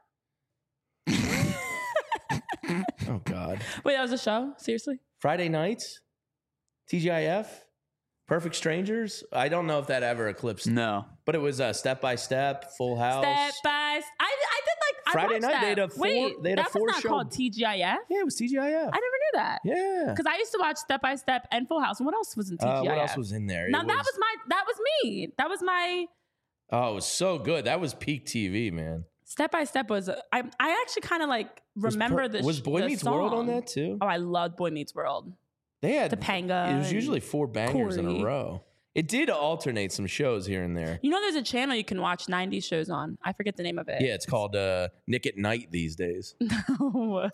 Oh God. Wait, that was a show? Seriously? Friday nights, TGIF, Perfect Strangers. I don't know if that ever eclipsed, No. but it was Step by Step, Full House. Step by Step. I did like. Friday I watched night, that. they had a four- Wait, they had a that four was not show- called TGIF. Yeah, it was TGIF. I never knew that. Yeah. Because I used to watch Step by Step and Full House. And what else was in TGIF? What else was in there? Now that was me. That was my Oh, it was so good. That was peak TV, man. Step by Step was. I actually kind of like remember this. Was Boy the Meets World on song. that too? Oh, I loved Boy Meets World. They had Topanga. It was usually 4 bangers in Corey. a row. It did alternate some shows here and there. You know, there's a channel you can watch 90s shows on. I forget the name of it. Yeah, it's called Nick at Night these days. No.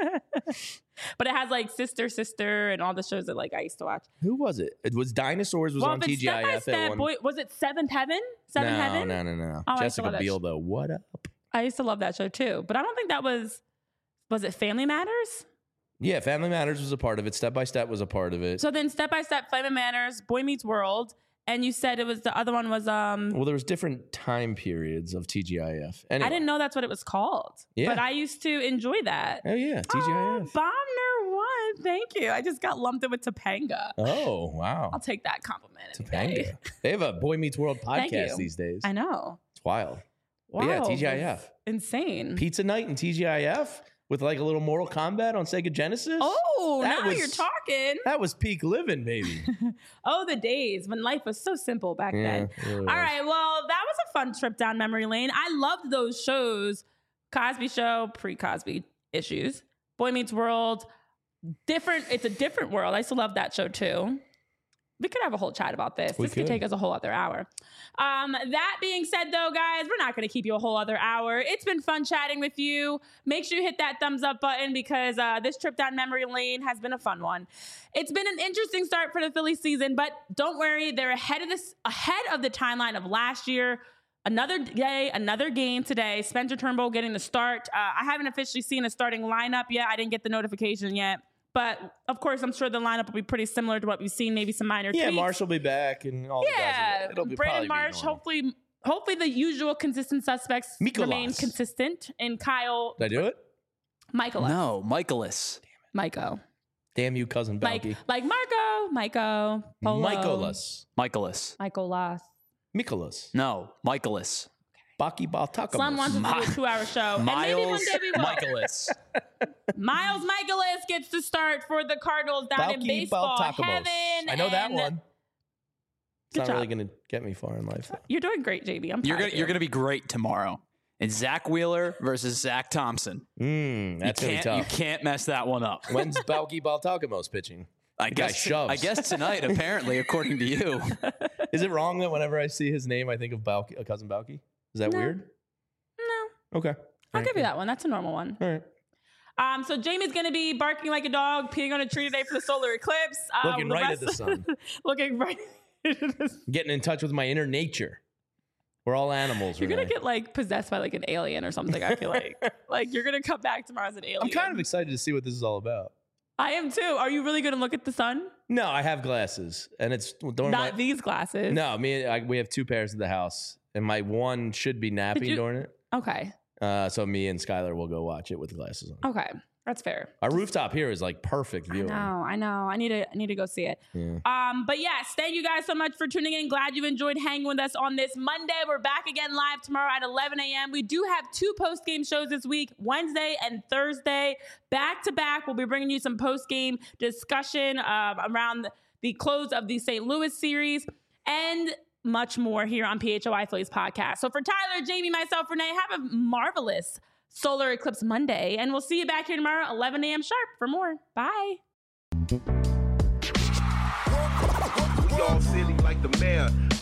But it has like Sister, and all the shows that like I used to watch. Who was it? It was Dinosaurs was Well, on if it's TGIF Step by at Step, one. boy, was it Seventh Heaven? Seventh Heaven? No. Oh, I used to love Jessica that Biel though. What up? I used to love that show too. But I don't think that was it Family Matters? Yeah, Family Matters was a part of it. Step by Step was a part of it. So then Step by Step, Family Matters, Boy Meets World, and you said it was the other one was Well, there was different time periods of TGIF. Anyway. I didn't know that's what it was called. Yeah. But I used to enjoy that. Oh yeah, TGIF. Oh, Bomber one. Thank you. I just got lumped in with Topanga. Oh wow. I'll take that compliment. any day. Topanga. They have a Boy Meets World Thank podcast you. these days. I know. It's wild. Wow. But yeah, TGIF. Insane. Pizza night and TGIF with like a little Mortal Kombat on Sega Genesis. Oh, That now was- you're talking. That was peak living, baby. Oh, the days when life was so simple back then. it really All was. right. Well, that was a fun trip down memory lane. I loved those shows. Cosby Show, pre-Cosby issues. Boy Meets World. Different. It's a different world. I used to love that show too. We could have a whole chat about this. We This could could. take us a whole other hour. That being said, though, guys, we're not going to keep you a whole other hour. It's been fun chatting with you. Make sure you hit that thumbs up button because this trip down memory lane has been a fun one. It's been an interesting start for the Phillies season, but don't worry, they're ahead of the timeline of last year. Another day, another game today. Spencer Turnbull getting the start. I haven't officially seen a starting lineup yet. I didn't get the notification yet. But of course, I'm sure the lineup will be pretty similar to what we've seen. Maybe some minor tweaks. Marsh will be back, and all the guys. It'll be Brandon Marsh. Hopefully the usual consistent suspects remain consistent. And Kyle. Did I do it? Michaelis. No, Michaelis. Myco. Damn you, cousin Balky. Like Myco. Polo. Michaelis. Michaelis. No, Michaelis. Baki Baltakamus. Slum wants us to do a 2-hour show. Miles and maybe one day we will. Michaelis. Miles Michaelis gets to start for the Cardinals down in baseball heaven. I know that one. It's not job. really going to get me far in life. You're doing great, JB. I'm proud of you. You're gonna be great tomorrow. It's Zach Wheeler versus Zach Thompson. That's going to be tough. You can't mess that one up. When's Balky Baltakamos pitching? I guess tonight, apparently, according to you. Is it wrong that whenever I see his name, I think of Balky, cousin Balky? Is that weird? No. Okay. I'll give you that one. That's a normal one. All right. So Jamie's going to be barking like a dog, peeing on a tree today for the solar eclipse. Looking right at the sun. Looking right at the sun. Getting in touch with my inner nature. We're all animals. You're going to get like possessed by like an alien or something, I feel like. Like you're going to come back tomorrow as an alien. I'm kind of excited to see what this is all about. I am too. Are you really going to look at the sun? No, I have glasses. And it's... Not these glasses. No, we have 2 pairs at the house. And my one should be napping during it. Okay. So me and Skylar will go watch it with glasses on. Okay. That's fair. Our rooftop here is like perfect viewing. I know. I need to go see it. Yeah. But yes, thank you guys so much for tuning in. Glad you enjoyed hanging with us on this Monday. We're back again live tomorrow at 11 a.m. We do have 2 post-game shows this week, Wednesday and Thursday. Back to back, we'll be bringing you some post-game discussion around the close of the St. Louis series and much more here on PHOI Phillies podcast. So for Tyler, Jamie, myself, Renee, have a marvelous Solar Eclipse Monday, and we'll see you back here tomorrow, 11 a.m. sharp for more. Bye. We all silly like the mayor.